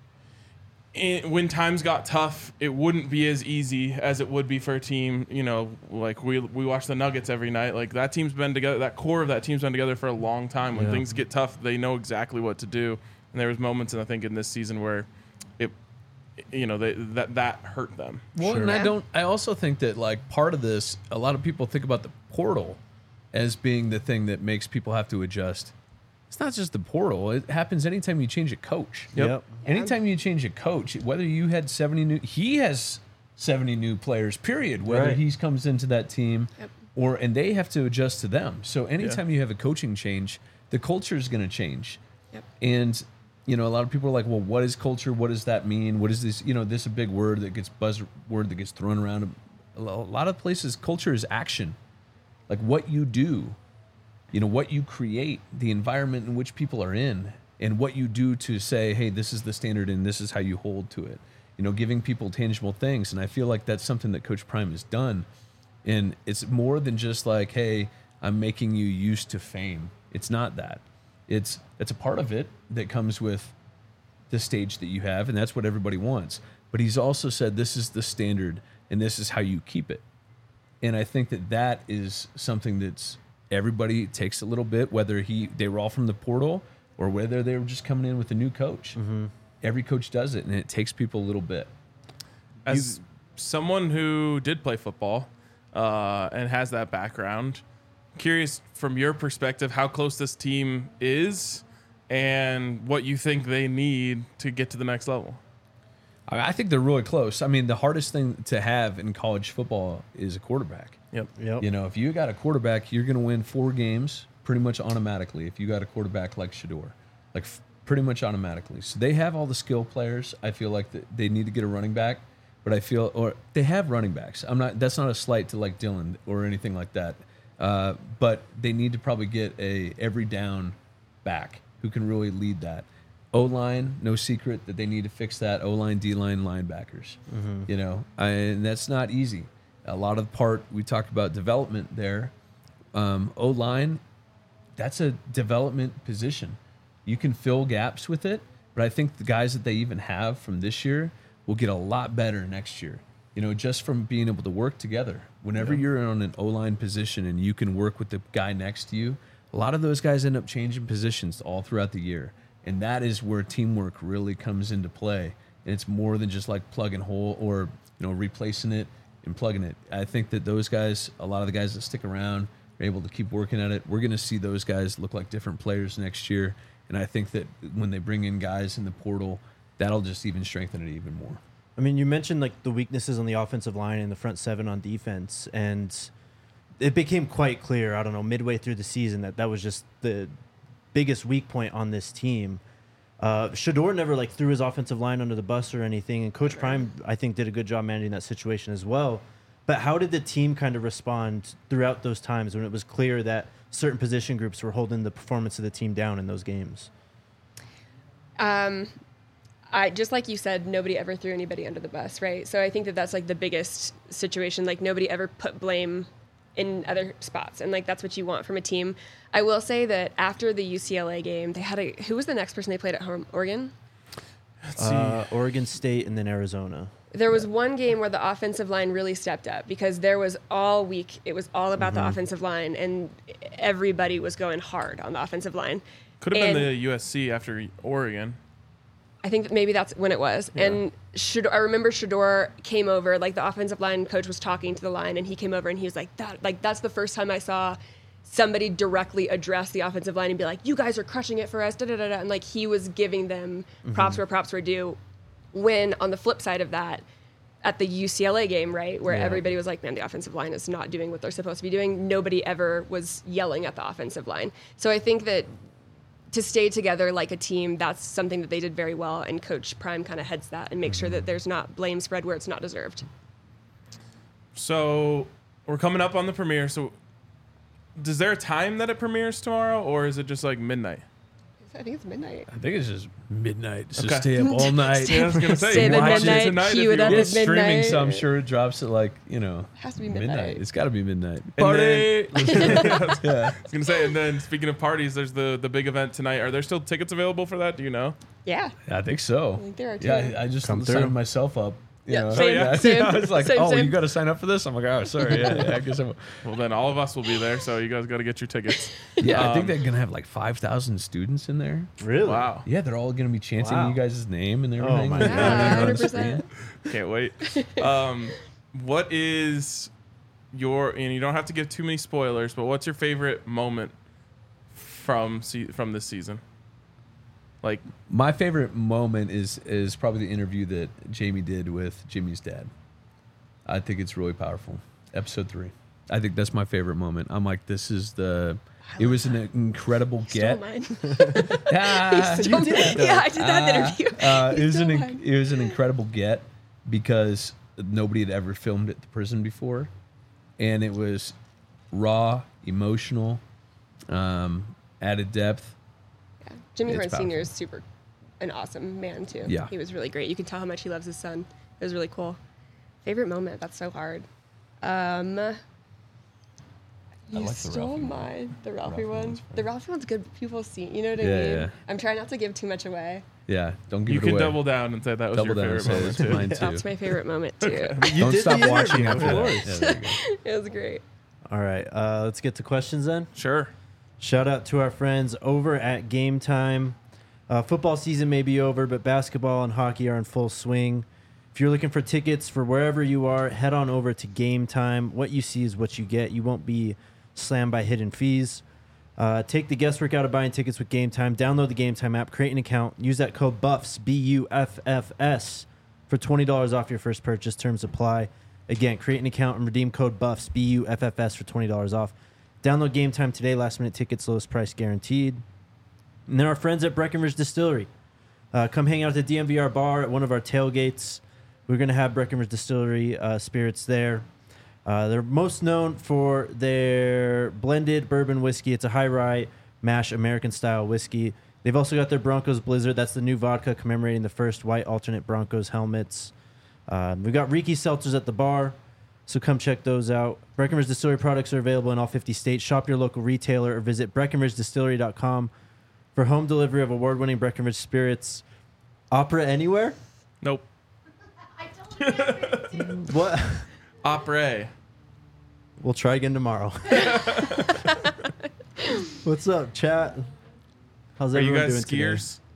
in, when times got tough, it wouldn't be as easy as it would be for a team. You know, like we we watch the Nuggets every night. Like, that team's been together. That core of that team's been together for a long time. When Yeah. things get tough, they know exactly what to do. And there was moments, and I think in this season where it, you know, they, that that hurt them. Well, Sure. and I Yeah. don't. I also think that like part of this, a lot of people think about the portal as being the thing that makes people have to adjust. It's not just the portal. It happens anytime you change a coach. Yep. Yep. Anytime you change a coach, whether you had seventy new, he has seventy new players. Period. Whether Right. he comes into that team, Yep. or and they have to adjust to them. So anytime you have a coaching change, the culture is going to change. Yep. And you know, a lot of people are like, well, what is culture? What does that mean? What is this? You know, this is a big word that gets buzzword that gets thrown around. A lot of places, culture is action, like what you do, you know, what you create, the environment in which people are in, and what you do to say, hey, this is the standard and this is how you hold to it. You know, giving people tangible things. And I feel like that's something that Coach Prime has done. And it's more than just like, hey, I'm making you used to fame. It's not that. It's it's a part of it that comes with the stage that you have, and that's what everybody wants. But he's also said this is the standard, and this is how you keep it. And I think that that is something that's everybody takes a little bit, whether he they were all from the portal or whether they were just coming in with a new coach. Mm-hmm. Every coach does it, and it takes people a little bit. As you, someone who did play football uh, and has that background, curious from your perspective how close this team is and what you think they need to get to the next level. I think they're really close. I mean, the hardest thing to have in college football is a quarterback. Yep. Yep. You know, if you got a quarterback, you're going to win four games pretty much automatically. If you got a quarterback like Shedeur, like f- pretty much automatically. So they have all the skill players. I feel like that they need to get a running back, but I feel or they have running backs. I'm not. That's not a slight to like Dylan or anything like that. Uh, but they need to probably get a every down back who can really lead that. O-line, no secret that they need to fix that. O-line, D-line, linebackers. Mm-hmm. You know, I, and that's not easy. A lot of the part, we talked about development there. Um, O-line, that's a development position. You can fill gaps with it, but I think the guys that they even have from this year will get a lot better next year. You know, just from being able to work together. Whenever yeah. you're on an O-line position and you can work with the guy next to you, a lot of those guys end up changing positions all throughout the year. And that is where teamwork really comes into play. And it's more than just like plug and hole or, you know, replacing it and plugging it. I think that those guys, a lot of the guys that stick around are able to keep working at it. We're going to see those guys look like different players next year. And I think that when they bring in guys in the portal, that'll just even strengthen it even more. I mean, you mentioned like the weaknesses on the offensive line and the front seven on defense. And it became quite clear, I don't know, midway through the season that that was just the biggest weak point on this team. Uh, Shedeur never like threw his offensive line under the bus or anything, and Coach Prime I think did a good job managing that situation as well. But how did the team kind of respond throughout those times when it was clear that certain position groups were holding the performance of the team down in those games? Um, I just like you said, nobody ever threw anybody under the bus, right? So I think that that's like the biggest situation. Like nobody ever put blame in other spots, and like that's what you want from a team. I will say that after the U C L A game, they had a who was the next person they played at home? Oregon. Uh, Oregon State and then Arizona. There was one game where the offensive line really stepped up because there was all week it was all about mm-hmm. the offensive line, and everybody was going hard on the offensive line. Could have and been the U S C after Oregon. I think that maybe that's when it was. Yeah. And Shedeur, I remember Shedeur came over, like the offensive line coach was talking to the line, and he came over and he was like, "That, like that's the first time I saw somebody directly address the offensive line and be like, you guys are crushing it for us, da da da da." And like he was giving them props mm-hmm. where props were due. When on the flip side of that, at the U C L A game, right, where yeah. everybody was like, man, the offensive line is not doing what they're supposed to be doing. Nobody ever was yelling at the offensive line. So I think that to stay together like a team, that's something that they did very well, and Coach Prime kind of heads that and makes sure that there's not blame spread where it's not deserved. So we're coming up on the premiere. So is there a time that it premieres tomorrow, or is it just like midnight? I think it's midnight. I think it's just midnight. Just okay. stay up all night. Yeah, I was gonna say, stay watch at midnight, it tonight. cue it up It's at midnight. streaming, so I'm sure it drops at like, you know, it has to be midnight. midnight. It's got to be midnight. Party! Then, yeah, I was yeah. gonna say, and then speaking of parties, there's the the big event tonight. Are there still tickets available for that? Do you know? Yeah. I think so. I think there are too. Yeah, I just Come signed through. myself up. You Yeah, know? same, Oh, yeah. same, I was like, same, oh, same. you got to sign up for this? I'm like, oh, sorry. Yeah, yeah I guess I'm. Well, then all of us will be there, so you guys got to get your tickets. Yeah, I think Um, they're going to have like five thousand students in there. Really? Wow. Yeah, they're all going to be chanting Wow. you guys' name and Oh, everything. my You know, God. on Yeah, the one hundred percent. screen. Can't wait. Um, what is your, and you don't have to give too many spoilers, but what's your favorite moment from se- from this season? Like, My favorite moment is is probably the interview that Jamie did with Jimmy's dad. I think it's really powerful. Episode three. I think that's my favorite moment. I'm like, this is the. It was an incredible Stole get. mine. Ah, He stole you did mine. that. Yeah, I did that Ah, interview. Uh, He it was an stole inc- mine. it was an incredible get because nobody had ever filmed at the prison before, and it was raw, emotional, um, added depth. Yeah. Jimmy It's Horn Senior powerful. is super, an awesome man too. Yeah. He was really great. You can tell how much he loves his son. It was really cool. Favorite moment? That's so hard. Um, I You like the stole Ralphie one. mine. The Ralphie, Ralphie one. one's The fine. Ralphie one's good. People see. You know what I Yeah, mean? yeah. I'm trying not to give too much away. Yeah, don't give You it can away. double down and say that was Double your down and favorite say moment it's too. mine too. That's my favorite moment too. You Don't did stop the watching interview, after of that. course. Yeah, there you go. It was great. All right, uh, let's get to questions then. Sure. Shout out to our friends over at Game Time. Uh, football season may be over, but basketball and hockey are in full swing. If you're looking for tickets for wherever you are, head on over to Game Time. What you see is what you get. You won't be slammed by hidden fees. Uh, take the guesswork out of buying tickets with Game Time. Download the Game Time app, create an account, use that code BUFFS, B U F F S, for twenty dollars off your first purchase. Terms apply. Again, create an account and redeem code BUFFS, B U F F S, for twenty dollars off. Download Game Time today. Last minute tickets, lowest price guaranteed. And then our friends at Breckenridge Distillery. Uh, come hang out at the D M V R bar at one of our tailgates. We're going to have Breckenridge Distillery uh, spirits there. Uh, they're most known for their blended bourbon whiskey. It's a high rye mash American style whiskey. They've also got their Broncos Blizzard. That's the new vodka commemorating the first white alternate Broncos helmets. Um, we've got Riki seltzers at the bar, so come check those out. Breckenridge Distillery products are available in all fifty states. Shop your local retailer or visit breckenridge distillery dot com for home delivery of award-winning Breckenridge spirits. Opera anywhere? Nope. What? Opera. We'll try again tomorrow. What's up, chat? How's Are you everyone guys doing today? skiers?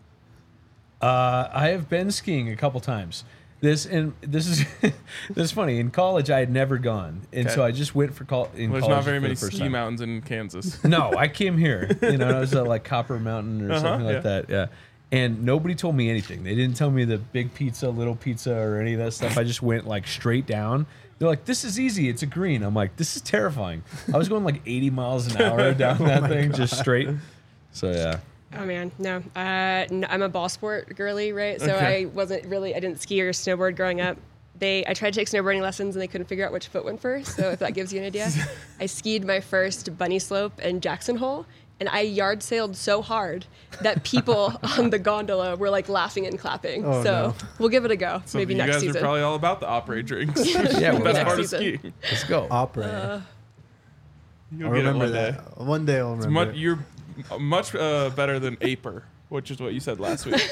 Uh, I have been skiing a couple times. This and this is this is funny. In college, I had never gone, and Okay. so I just went for col- in There's college not very for many the first ski time. mountains in Kansas. No, I came here. You know, I was at like Copper Mountain or Uh-huh, something like yeah. that. Yeah. And nobody told me anything. They didn't tell me the big pizza, little pizza, or any of that stuff. I just went like straight down. They're like, "This is easy. It's a green." I'm like, "This is terrifying." I was going like eighty miles an hour down that thing, just straight. So yeah. Oh man, no. Uh, n- I'm a ball sport girly, right? So Okay. I wasn't really. I didn't ski or snowboard growing up. They, I tried to take snowboarding lessons and they couldn't figure out which foot went first. So if that gives you an idea, I skied my first bunny slope in Jackson Hole, and I yard sailed so hard that people on the gondola were like laughing and clapping. Oh, so no. we'll give it a go. So Maybe you next guys season. are probably all about the opera drinks. Yeah, That's well, Next part of season. skiing. let's go. Opera. Uh, You'll I'll get it remember one day. that. One day I'll It's remember. much, it. you're much uh, better than Aper, which is what you said last week.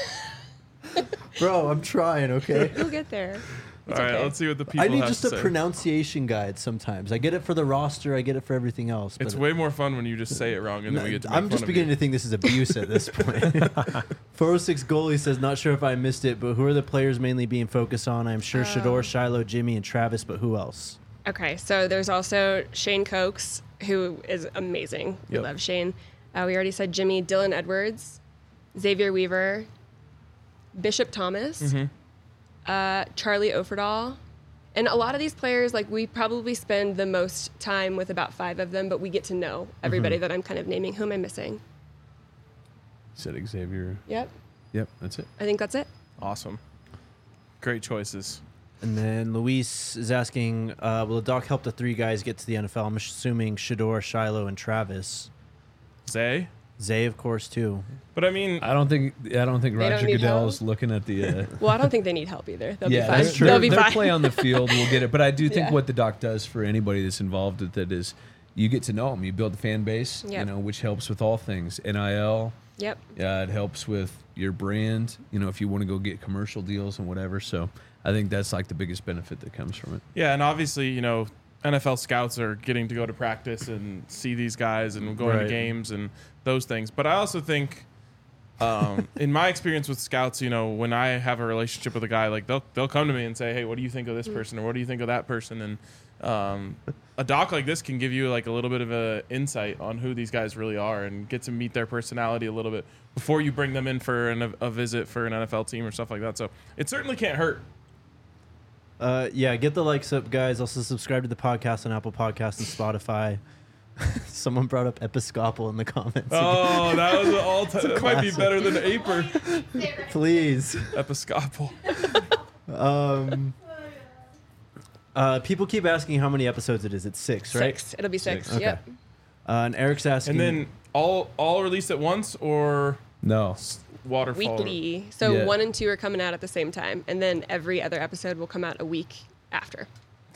Bro, I'm trying, okay? You'll get there. All It's right, okay. let's see what the people I need have just to a say. pronunciation guide sometimes. I get it for the roster, I get it for everything else. It's but way more fun when you just say it wrong and then we get to make I'm fun just of beginning you. to think this is abuse at this point. four oh six goalie says, not sure if I missed it, but who are the players mainly being focused on? I'm sure Shador, Shiloh, Jimmy, and Travis, but who else? Okay, so there's also Shane Cokes, who is amazing. We Yep. love Shane. Uh, we already said Jimmy, Dylan Edwards, Xavier Weaver, Bishop Thomas, Mm-hmm. uh, Charlie Offerdahl. And a lot of these players, like we probably spend the most time with about five of them, but we get to know everybody Mm-hmm. that I'm kind of naming. Who am I missing? Said Xavier. Yep, Yep, that's it. I think that's it. Awesome. Great choices. And then Luis is asking, uh, will the doc help the three guys get to the N F L? I'm assuming Shador, Shiloh, and Travis. Zay? Zay, of course, too. But I mean, I don't think I don't think They don't Roger need Goodell help? is looking at the. Uh, Well, I don't think they need help either. They'll yeah, be fine. that's true. They'll be Their fine. play on the field will get it, but I do think Yeah. what the doc does for anybody that's involved with it is you get to know them. You build a fan base, you Yep. know, which helps with all things N I L. Yep. Yeah, it helps with your brand. You know, if you want to go get commercial deals and whatever. So I think that's like the biggest benefit that comes from it. yeah, and obviously, you know, N F L scouts are getting to go to practice and see these guys and going Right. to games and those things. But I also think, um, in my experience with scouts, you know, when I have a relationship with a guy, like they'll they'll come to me and say, "Hey, what do you think of this person?" or "What do you think of that person?" And um, a doc like this can give you like a little bit of a insight on who these guys really are and get to meet their personality a little bit before you bring them in for an, a visit for an N F L team or stuff like that. So it certainly can't hurt. Uh, yeah, get the likes up, guys. Also, subscribe to the podcast on Apple Podcasts and Spotify. Someone brought up Episcopal in the comments. Oh, that was an all time. That might be classic. better than Aper. Please. Episcopal. Um, uh, people keep asking how many episodes it is. It's six, right? Six. It'll be six. Six. Okay. Yep. Uh, and Eric's asking. And then all all released at once or No. waterfall? Weekly. So Yeah. one and two are coming out at the same time, and then every other episode will come out a week after.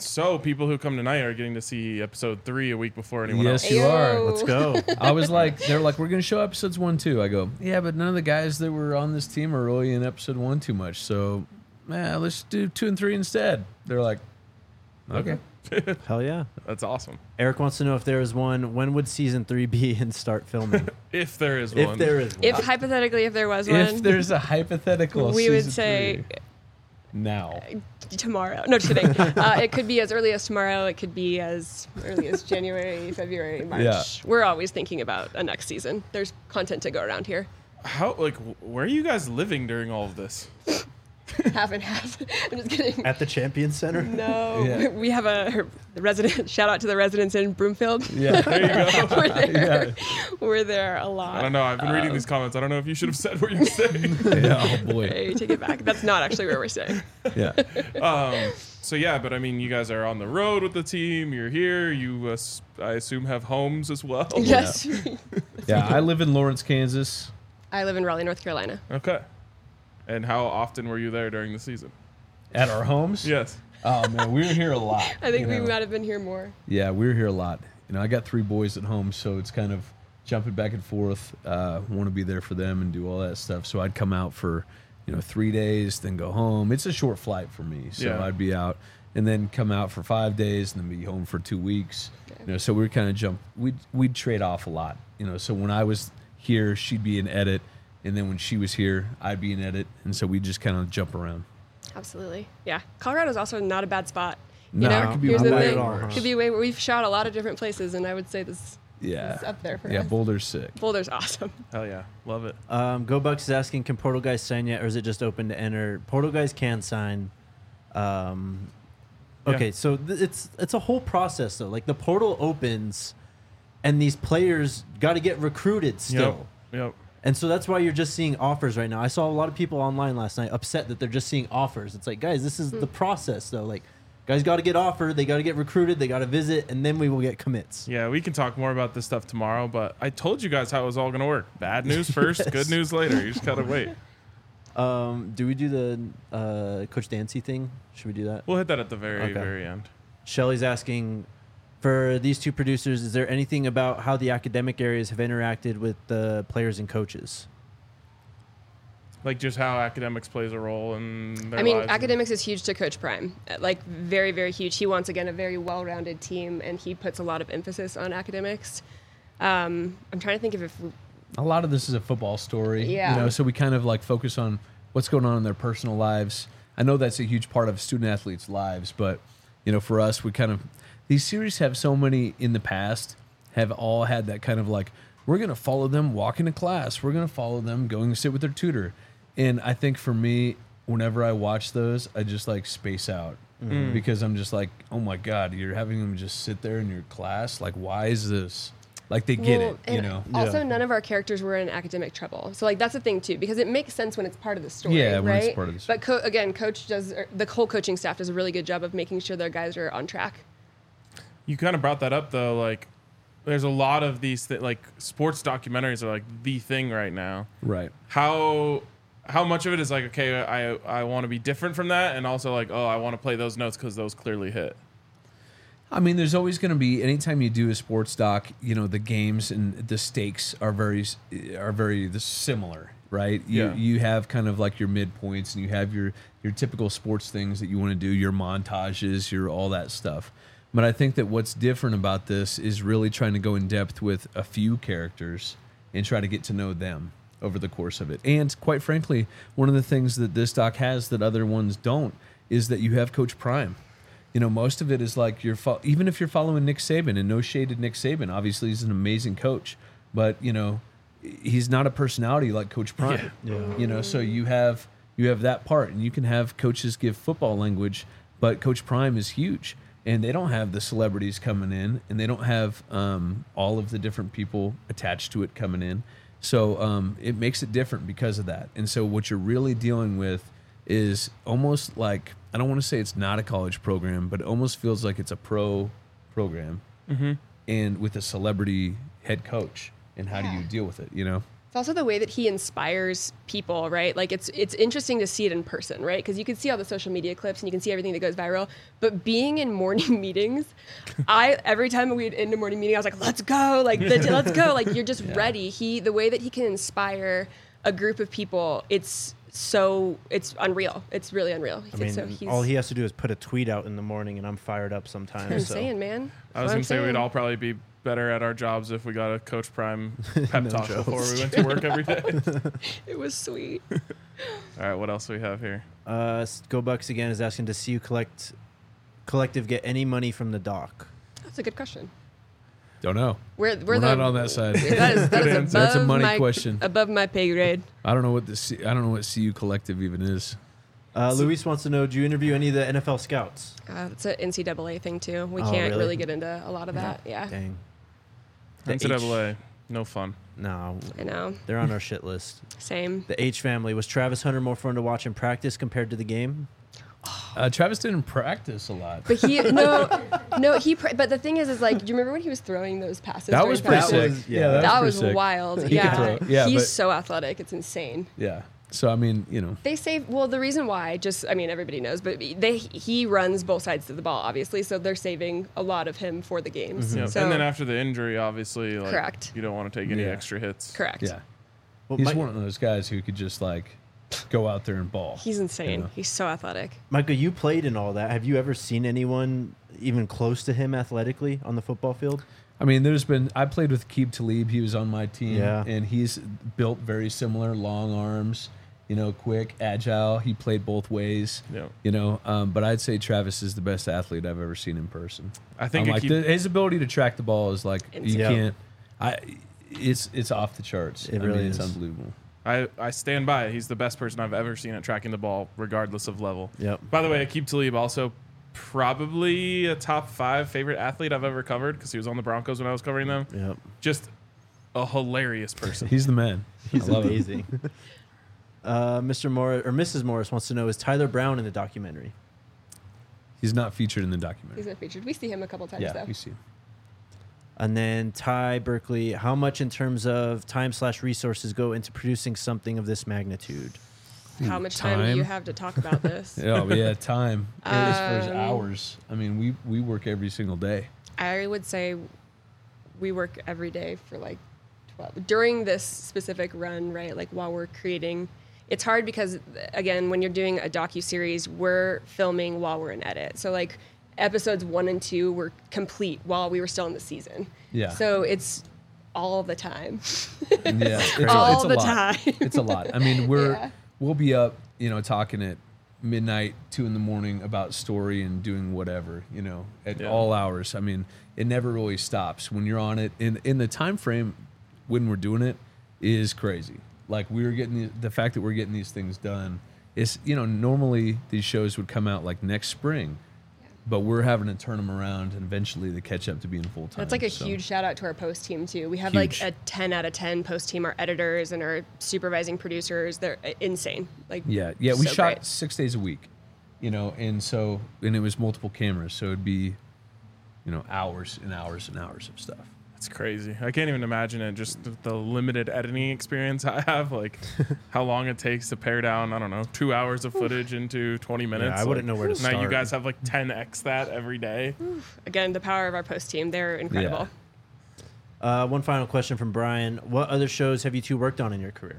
So people who come tonight are getting to see episode three a week before anyone Yes, else. you are. Ayo. Let's go. I was like, they're like, we're gonna show episodes one, two. I go, yeah, but none of the guys that were on this team are really in episode one too much. So, man, let's do two and three instead. They're like, okay. Hell yeah. That's awesome. Eric wants to know if there is one. When would season three be and start filming? If there is if one. there is one. If hypothetically, if there was one, If there's a hypothetical, we would season say three, now. tomorrow. No, just kidding. uh, it could be as early as tomorrow. It could be as early as January, February, March. Yeah. We're always thinking about a next season. There's content to go around here. How like wh- where are you guys living during all of this? Half and half. I'm just kidding. At the Champions Center? No, Yeah. we have a the resident. Shout out to the residents in Broomfield. Yeah. There you go. We're there. Yeah. We're there a lot. I don't know. I've been reading these comments. I don't know if you should have said what you're saying. Yeah. Oh boy. Hey, take it back. That's not actually where we're staying. Yeah. um, so yeah, but I mean, you guys are on the road with the team. You're here. You, uh, s- I assume, have homes as well. Yes. Yeah. I live in Lawrence, Kansas. I live in Raleigh, North Carolina. Okay. And how often were you there during the season? At our homes. Yes. Oh man, we were here a lot. I think you we know. might have been here more. Yeah, we were here a lot. You know, I got three boys at home, so it's kind of jumping back and forth. Uh, want to be there for them and do all that stuff. So I'd come out for, you know, three days, then go home. It's a short flight for me, so Yeah. I'd be out and then come out for five days and then be home for two weeks. You know, so we were kind of jump. We'd we'd trade off a lot. You know, so when I was here, she'd be in edit, and then when she was here, I'd be in edit, and so we'd just kind of jump around. Absolutely. Yeah. Colorado's also not a bad spot. You No, know, it could be here's the way thing. worse. Could be way. We've shot a lot of different places, and I would say this Yeah, is up there for yeah. us. Boulder's sick. Boulder's awesome. Hell yeah. Love it. Um, Go Bucks is asking, can Portal guys sign yet, or is it just open to enter? Portal guys can sign. Um, okay, Yeah. so th- it's it's a whole process though. Like the portal opens, and these players got to get recruited still. Yep. Yep. And so that's why you're just seeing offers right now. I saw a lot of people online last night upset that they're just seeing offers. It's like, guys, this is the process though. Like, guys got to get offered, they got to get recruited, they got to visit, and then we will get commits. Yeah, we can talk more about this stuff tomorrow, but I told you guys how it was all going to work. Bad news first, Yes. good news later. You just got to wait. Um, do we do the uh, Coach Dancy thing? Should we do that? We'll hit that at the very, Okay. very end. Shelly's asking, for these two producers, is there anything about how the academic areas have interacted with the players and coaches? Like just how academics plays a role in their I mean, lives. academics is huge to Coach Prime. Uh, Like very, very huge. He wants again a very well-rounded team, and he puts a lot of emphasis on academics. Um, I'm trying to think of if we, A lot of this is a football story. Yeah. You know, so we kind of like focus on what's going on in their personal lives. I know that's a huge part of student athletes' lives, but you know, for us, we kind of these series have so many in the past have all had that kind of like we're going to follow them walking to class. We're going to follow them going to sit with their tutor. And I think for me, whenever I watch those, I just like space out because I'm just like, oh my God, you're having them just sit there in your class. Like, why is this? Like they get Well, it, you and know? Also, Yeah. none of our characters were in academic trouble, so like that's the thing too, because it makes sense when it's part of the story, Yeah, when right? it's part of the story. But co- again, coach does or the whole coaching staff does a really good job of making sure their guys are on track. You kind of brought that up though. Like, there's a lot of these th- like sports documentaries are like the thing right now. Right. How how much of it is like, okay, I I want to be different from that, and also like, oh, I want to play those notes because those clearly hit. I mean, there's always going to be anytime you do a sports doc, you know, the games and the stakes are very are very similar, right? You Yeah. you have kind of like your midpoints, and you have your your typical sports things that you want to do, your montages, your all that stuff. But I think that what's different about this is really trying to go in depth with a few characters and try to get to know them over the course of it. And quite frankly, one of the things that this doc has that other ones don't is that you have Coach Prime. You know, most of it is like you're fo- even if you're following Nick Saban, and no shade to Nick Saban, obviously he's an amazing coach, but you know, he's not a personality like Coach Prime. Yeah. Yeah. You know, so you have you have that part, and you can have coaches give football language, but Coach Prime is huge, and they don't have the celebrities coming in, and they don't have um, all of the different people attached to it coming in. So um, it makes it different because of that. And so what you're really dealing with is almost like, I don't want to say it's not a college program, but it almost feels like it's a pro program, Mm-hmm. and with a celebrity head coach. And how do you deal with it? You know? It's also the way that he inspires people, right? Like it's it's interesting to see it in person, right? Because you can see all the social media clips and you can see everything that goes viral. But being in morning meetings, I every time we'd end a morning meeting, I was like, "Let's go! Like, the, let's go! Like, you're just yeah. ready." He the way that he can inspire a group of people, it's so it's unreal. It's really unreal. I mean, so he's, all he has to do is put a tweet out in the morning, and I'm fired up sometimes. I'm so. saying, man. I was gonna say saying. We'd all probably be better at our jobs if we got a Coach Prime pep no talk jokes. before we went to work every day. It was sweet. All right, what else do we have here? Uh, Go Bucks again is asking to see you collect collective get any money from the doc. That's a good question. Don't know. We're, we're, we're the, not on that side. That is, that is above That's a money my, question. Above my pay grade. I don't know what the C, I don't know what C U Collective even is. Uh, Luis wants to know: do you interview any of the N F L scouts? Uh, it's an N C double A thing too. We Oh, can't really? really get into a lot of that. Yeah. Dang. The N C double A, H- no fun. No, I know. they're on our shit list. Same. The H family, was Travis Hunter more fun to watch in practice compared to the game? Uh, Travis didn't practice a lot. But he no no he. Pr- but the thing is, is like, do you remember when he was throwing those passes? That during was pretty practice? sick. yeah, yeah, that That pretty was sick. wild. He could Yeah. throw. Yeah, He's but- so athletic. It's insane. Yeah. So I mean, you know, They save well. The reason why, just I mean, everybody knows, but they he runs both sides of the ball, obviously. So they're saving a lot of him for the games. Yeah. So, and then after the injury, obviously, like, Correct. you don't want to take any Yeah. extra hits. correct. yeah, Well, he's Mi- one of those guys who could just like go out there and ball. He's insane. Yeah. He's so athletic. Micah, you played in all that. Have you ever seen anyone even close to him athletically on the football field? I mean, there's been I played with Keeb Talib. He was on my team, Yeah. and he's built very similar, long arms. You know, quick, agile. He played both ways. Yeah. You know, um, but I'd say Travis is the best athlete I've ever seen in person. I think I'm it like keep- the, his ability to track the ball is like you Insane. Yeah. can't. I it's it's off the charts. It I really mean, it's is. unbelievable. I, I stand by it. He's the best person I've ever seen at tracking the ball, regardless of level. Yep. By the way, Aqib Talib also probably a top five favorite athlete I've ever covered because he was on the Broncos when I was covering them. Yep. Just a hilarious person. He's the man. He's I love him. amazing. uh, Mister Morris or Missus Morris wants to know: is Tyler Brown in the documentary? He's not featured in the He's documentary. been featured. We see him a couple times Yeah, though. we see. him. And then Ty Berkeley, how much in terms of time slash resources go into producing something of this magnitude? How much time, do you Time. have to talk about this? Yeah, but yeah, time. as far as Um, hours. I mean, we we work every single day. I would say we work every day for like twelve during this specific run, right? Like while we're creating, it's hard because again, when you're doing a docu-series, we're filming while we're in edit. So like episodes one and two were complete while we were still in the season. Yeah. So it's all the time. Yeah, it's a, All it's a the lot. time. It's a lot. I mean, we're Yeah. we'll be up, you know, talking at midnight, two in the morning about story and doing whatever, you know, at Yeah. all hours. I mean, it never really stops when you're on it. In in the time frame when we're doing it is crazy. Like we were getting the, the fact that we're getting these things done is, you know, normally these shows would come out like next spring. But we're having to turn them around and eventually they catch up to being full time. That's like a so. huge shout out to our post team too. We have Huge. like a ten out of ten post team. Our editors and our supervising producers, they're uh, insane. Like Yeah, yeah. We so shot great. six days a week, you know, and so and it was multiple cameras, so it'd be, you know, hours and hours and hours of stuff. It's crazy. I can't even imagine it. Just the, the limited editing experience I have, like how long it takes to pare down. I don't know, two hours of footage into twenty minutes. I wouldn't Like, know where to Now you start. guys have like ten x that every day. Again, the power of our post team, they're incredible. Uh, one final question from Brian: what other shows have you two worked on in your career?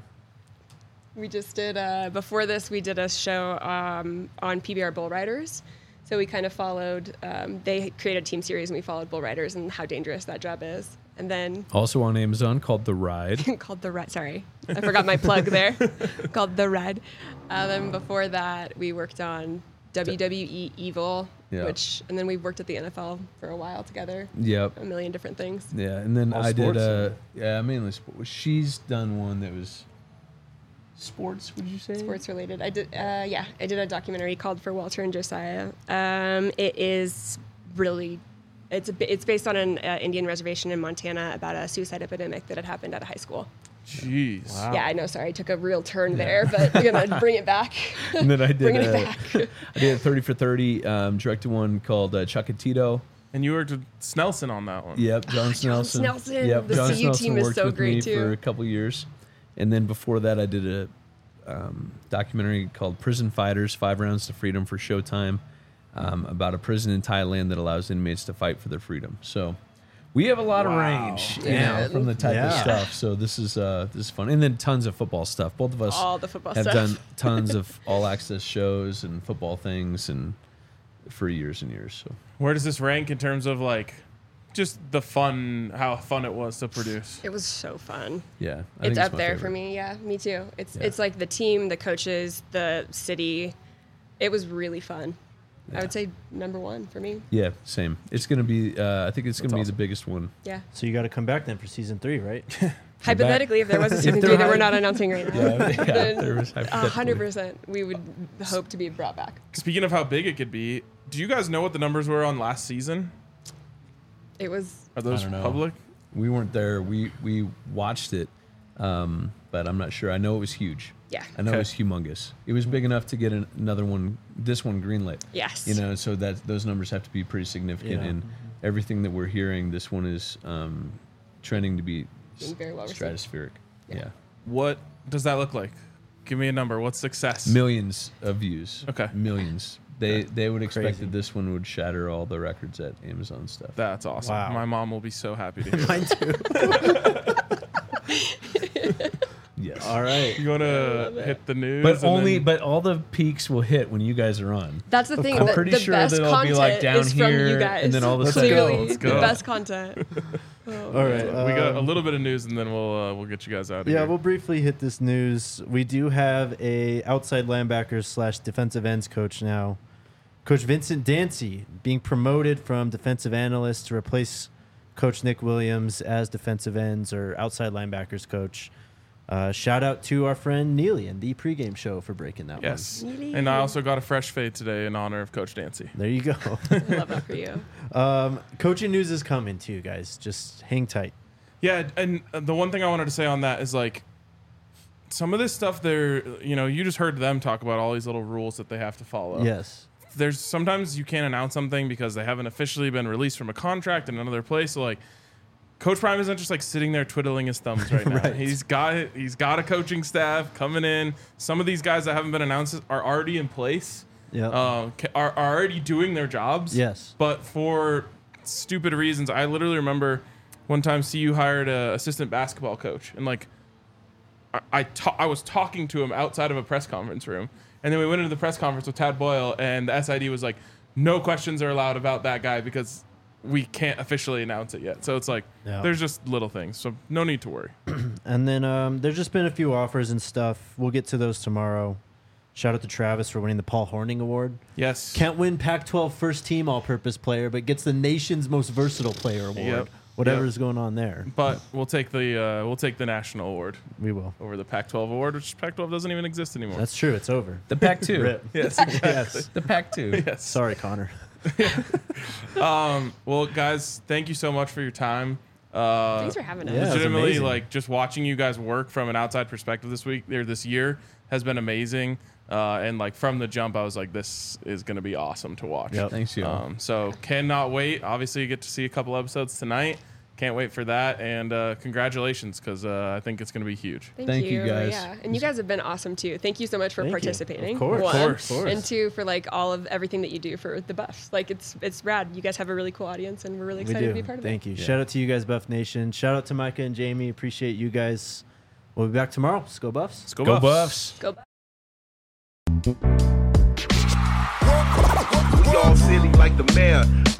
We just did uh, before this. We did a show um, on P B R Bull Riders. So we kind of followed. Um, they created a team series, and we followed Bull Riders and how dangerous that job is. And then Also on Amazon called The Ride. called the Ride. Sorry, I forgot my plug there. Called the Ride. Uh, then before that, we worked on W W E Evil, Yeah. which, and then we worked at the N F L for a while together. Yep. A million different things. Yeah, and then All I did. sports, Uh, or- yeah, mainly sports. She's done one that was sports. Would you say? Sports related. I did, uh, yeah, I did a documentary called For Walter and Josiah. Um, it is really, it's a, bi- it's based on an uh, Indian reservation in Montana about a suicide epidemic that had happened at a high school. Jeez. Wow. Yeah, I know. Sorry, I took a real turn there, but I'm gonna bring it back. And then I did. Bringing it uh, back. I did a thirty for thirty. Um, directed one called uh, Chuckatito. And you worked with Snelson on that one. Yep, John John Snelson. Snelson. Yep, The John C U Snelson team is worked so with great, me too. for a couple years, And then before that, I did a um, documentary called Prison Fighters, Five Rounds to Freedom for Showtime, um, about a prison in Thailand that allows inmates to fight for their freedom. So we have a lot Wow. of range, you Yeah. know, from the type of Yeah. stuff. So this is uh, this is fun. And then tons of football stuff. Both of us All the football have stuff. done tons of all access shows and football things and for years and years. So Where does this rank in terms of like just the fun, how fun it was to produce? It was so fun. yeah, I It's think up my there favorite. for me. Yeah, me too. It's Yeah. it's like the team, the coaches, the city. It was really fun. I would say number one for me. Yeah, same. It's gonna be. Uh, I think it's gonna That's be awesome. the biggest one. Yeah. So you got to come back then for season three, right? Hypothetically, if there was a season there three that had- we're not announcing right now, Yeah, yeah, then there was a hypothetically. hundred percent we would hope to be brought back. Speaking of how big it could be, do you guys know what the numbers were on last season? It was Are those don't know. public? We weren't there. We we watched it, um, but I'm not sure. I know it was huge. yeah. I know Okay. it was humongous. It was big enough to get an, another one. This one greenlit. Yes. You know, so that those numbers have to be pretty significant. Yeah. And everything that we're hearing, this one is um, trending to be Being very well received. stratospheric. Yeah. Yeah. What does that look like? Give me a number. What's success? Millions of views. Okay. Millions. They they would expect Crazy. that this one would shatter all the records at Amazon stuff. That's awesome. Wow. My mom will be so happy to hear. Mine too. Yes. All right. You want I to love it. hit the news? But and only then- but all the peaks will hit when you guys are on. That's the thing. I'm the, pretty the sure best that it'll be, content like, down is from here, you guys. and then all of a sudden- Clearly, Let's the go. best content. Oh, All right. we got a um, little bit of news, and then we'll uh, we'll get you guys out of Yeah, here. we'll briefly hit this news. We do have a outside linebackers slash defensive ends coach now. Coach Vincent Dancy being promoted from defensive analyst to replace Coach Nick Williams as defensive ends or outside linebackers coach. Uh, shout out to our friend Neely and the pregame show for breaking that Yes, Neely. and I also got a fresh fade today in honor of Coach Dancy. one. There you go. I love that for you. um, coaching news is coming too, guys. Just hang tight. Yeah, and the one thing I wanted to say on that is like some of this stuff. They're you know you just heard them talk about all these little rules that they have to follow. Yes. There's sometimes you can't announce something because they haven't officially been released from a contract in another place. So like, Coach Prime isn't just like sitting there twiddling his thumbs right now. Right. He's got he's got a coaching staff coming in. Some of these guys that haven't been announced are already in place. Yeah. Uh, ca- are, are already doing their jobs. Yes. But for stupid reasons, I literally remember one time C U hired a assistant basketball coach, and like I I, ta- I was talking to him outside of a press conference room, and then we went into the press conference with Tad Boyle, and the S I D was like, no questions are allowed about that guy because we can't officially announce it yet. So it's like Yeah. there's just little things, so no need to worry. And then um, there's just been a few offers and stuff. We'll get to those tomorrow. Shout out to Travis for winning the Paul Horning Award. Yes. Can't win Pac twelve first team all purpose player, but gets the nation's most versatile player award. Yep. Whatever Yep. is going on there. But we'll take the uh, we'll take the national award We will. over the Pac twelve award, which Pac twelve doesn't even exist anymore. That's true. It's over. The Pac two. Rip. yes, exactly. Yes. The Pac two. yes. Sorry, Connor. Um, well, guys, thank you so much for your time. Uh, Thanks for having us. Yeah, it was legitimately, amazing. like just watching you guys work from an outside perspective this week or this year has been amazing. Uh, and like from the jump, I was like, this is going to be awesome to watch. Yep. Thanks, you. Um, so cannot wait. Obviously, you get to see a couple episodes tonight. Can't wait for that. And uh, congratulations, because uh, I think it's going to be huge. Thank, Thank you. you, guys. Yeah, and you guys have been awesome too. Thank you so much for Thank you. participating. Of course. One. Of course. Of course. And two, for like all of everything that you do for the Buffs. Like it's it's rad. You guys have a really cool audience, and we're really We excited do. to be part of Thank it. you. Yeah. Shout out to you guys, Buff Nation. Shout out to Micah and Jamie. Appreciate you guys. We'll be back tomorrow. Let's go Buffs. Let's go, Go Buffs. Buffs. Go. We all silly like the mayor.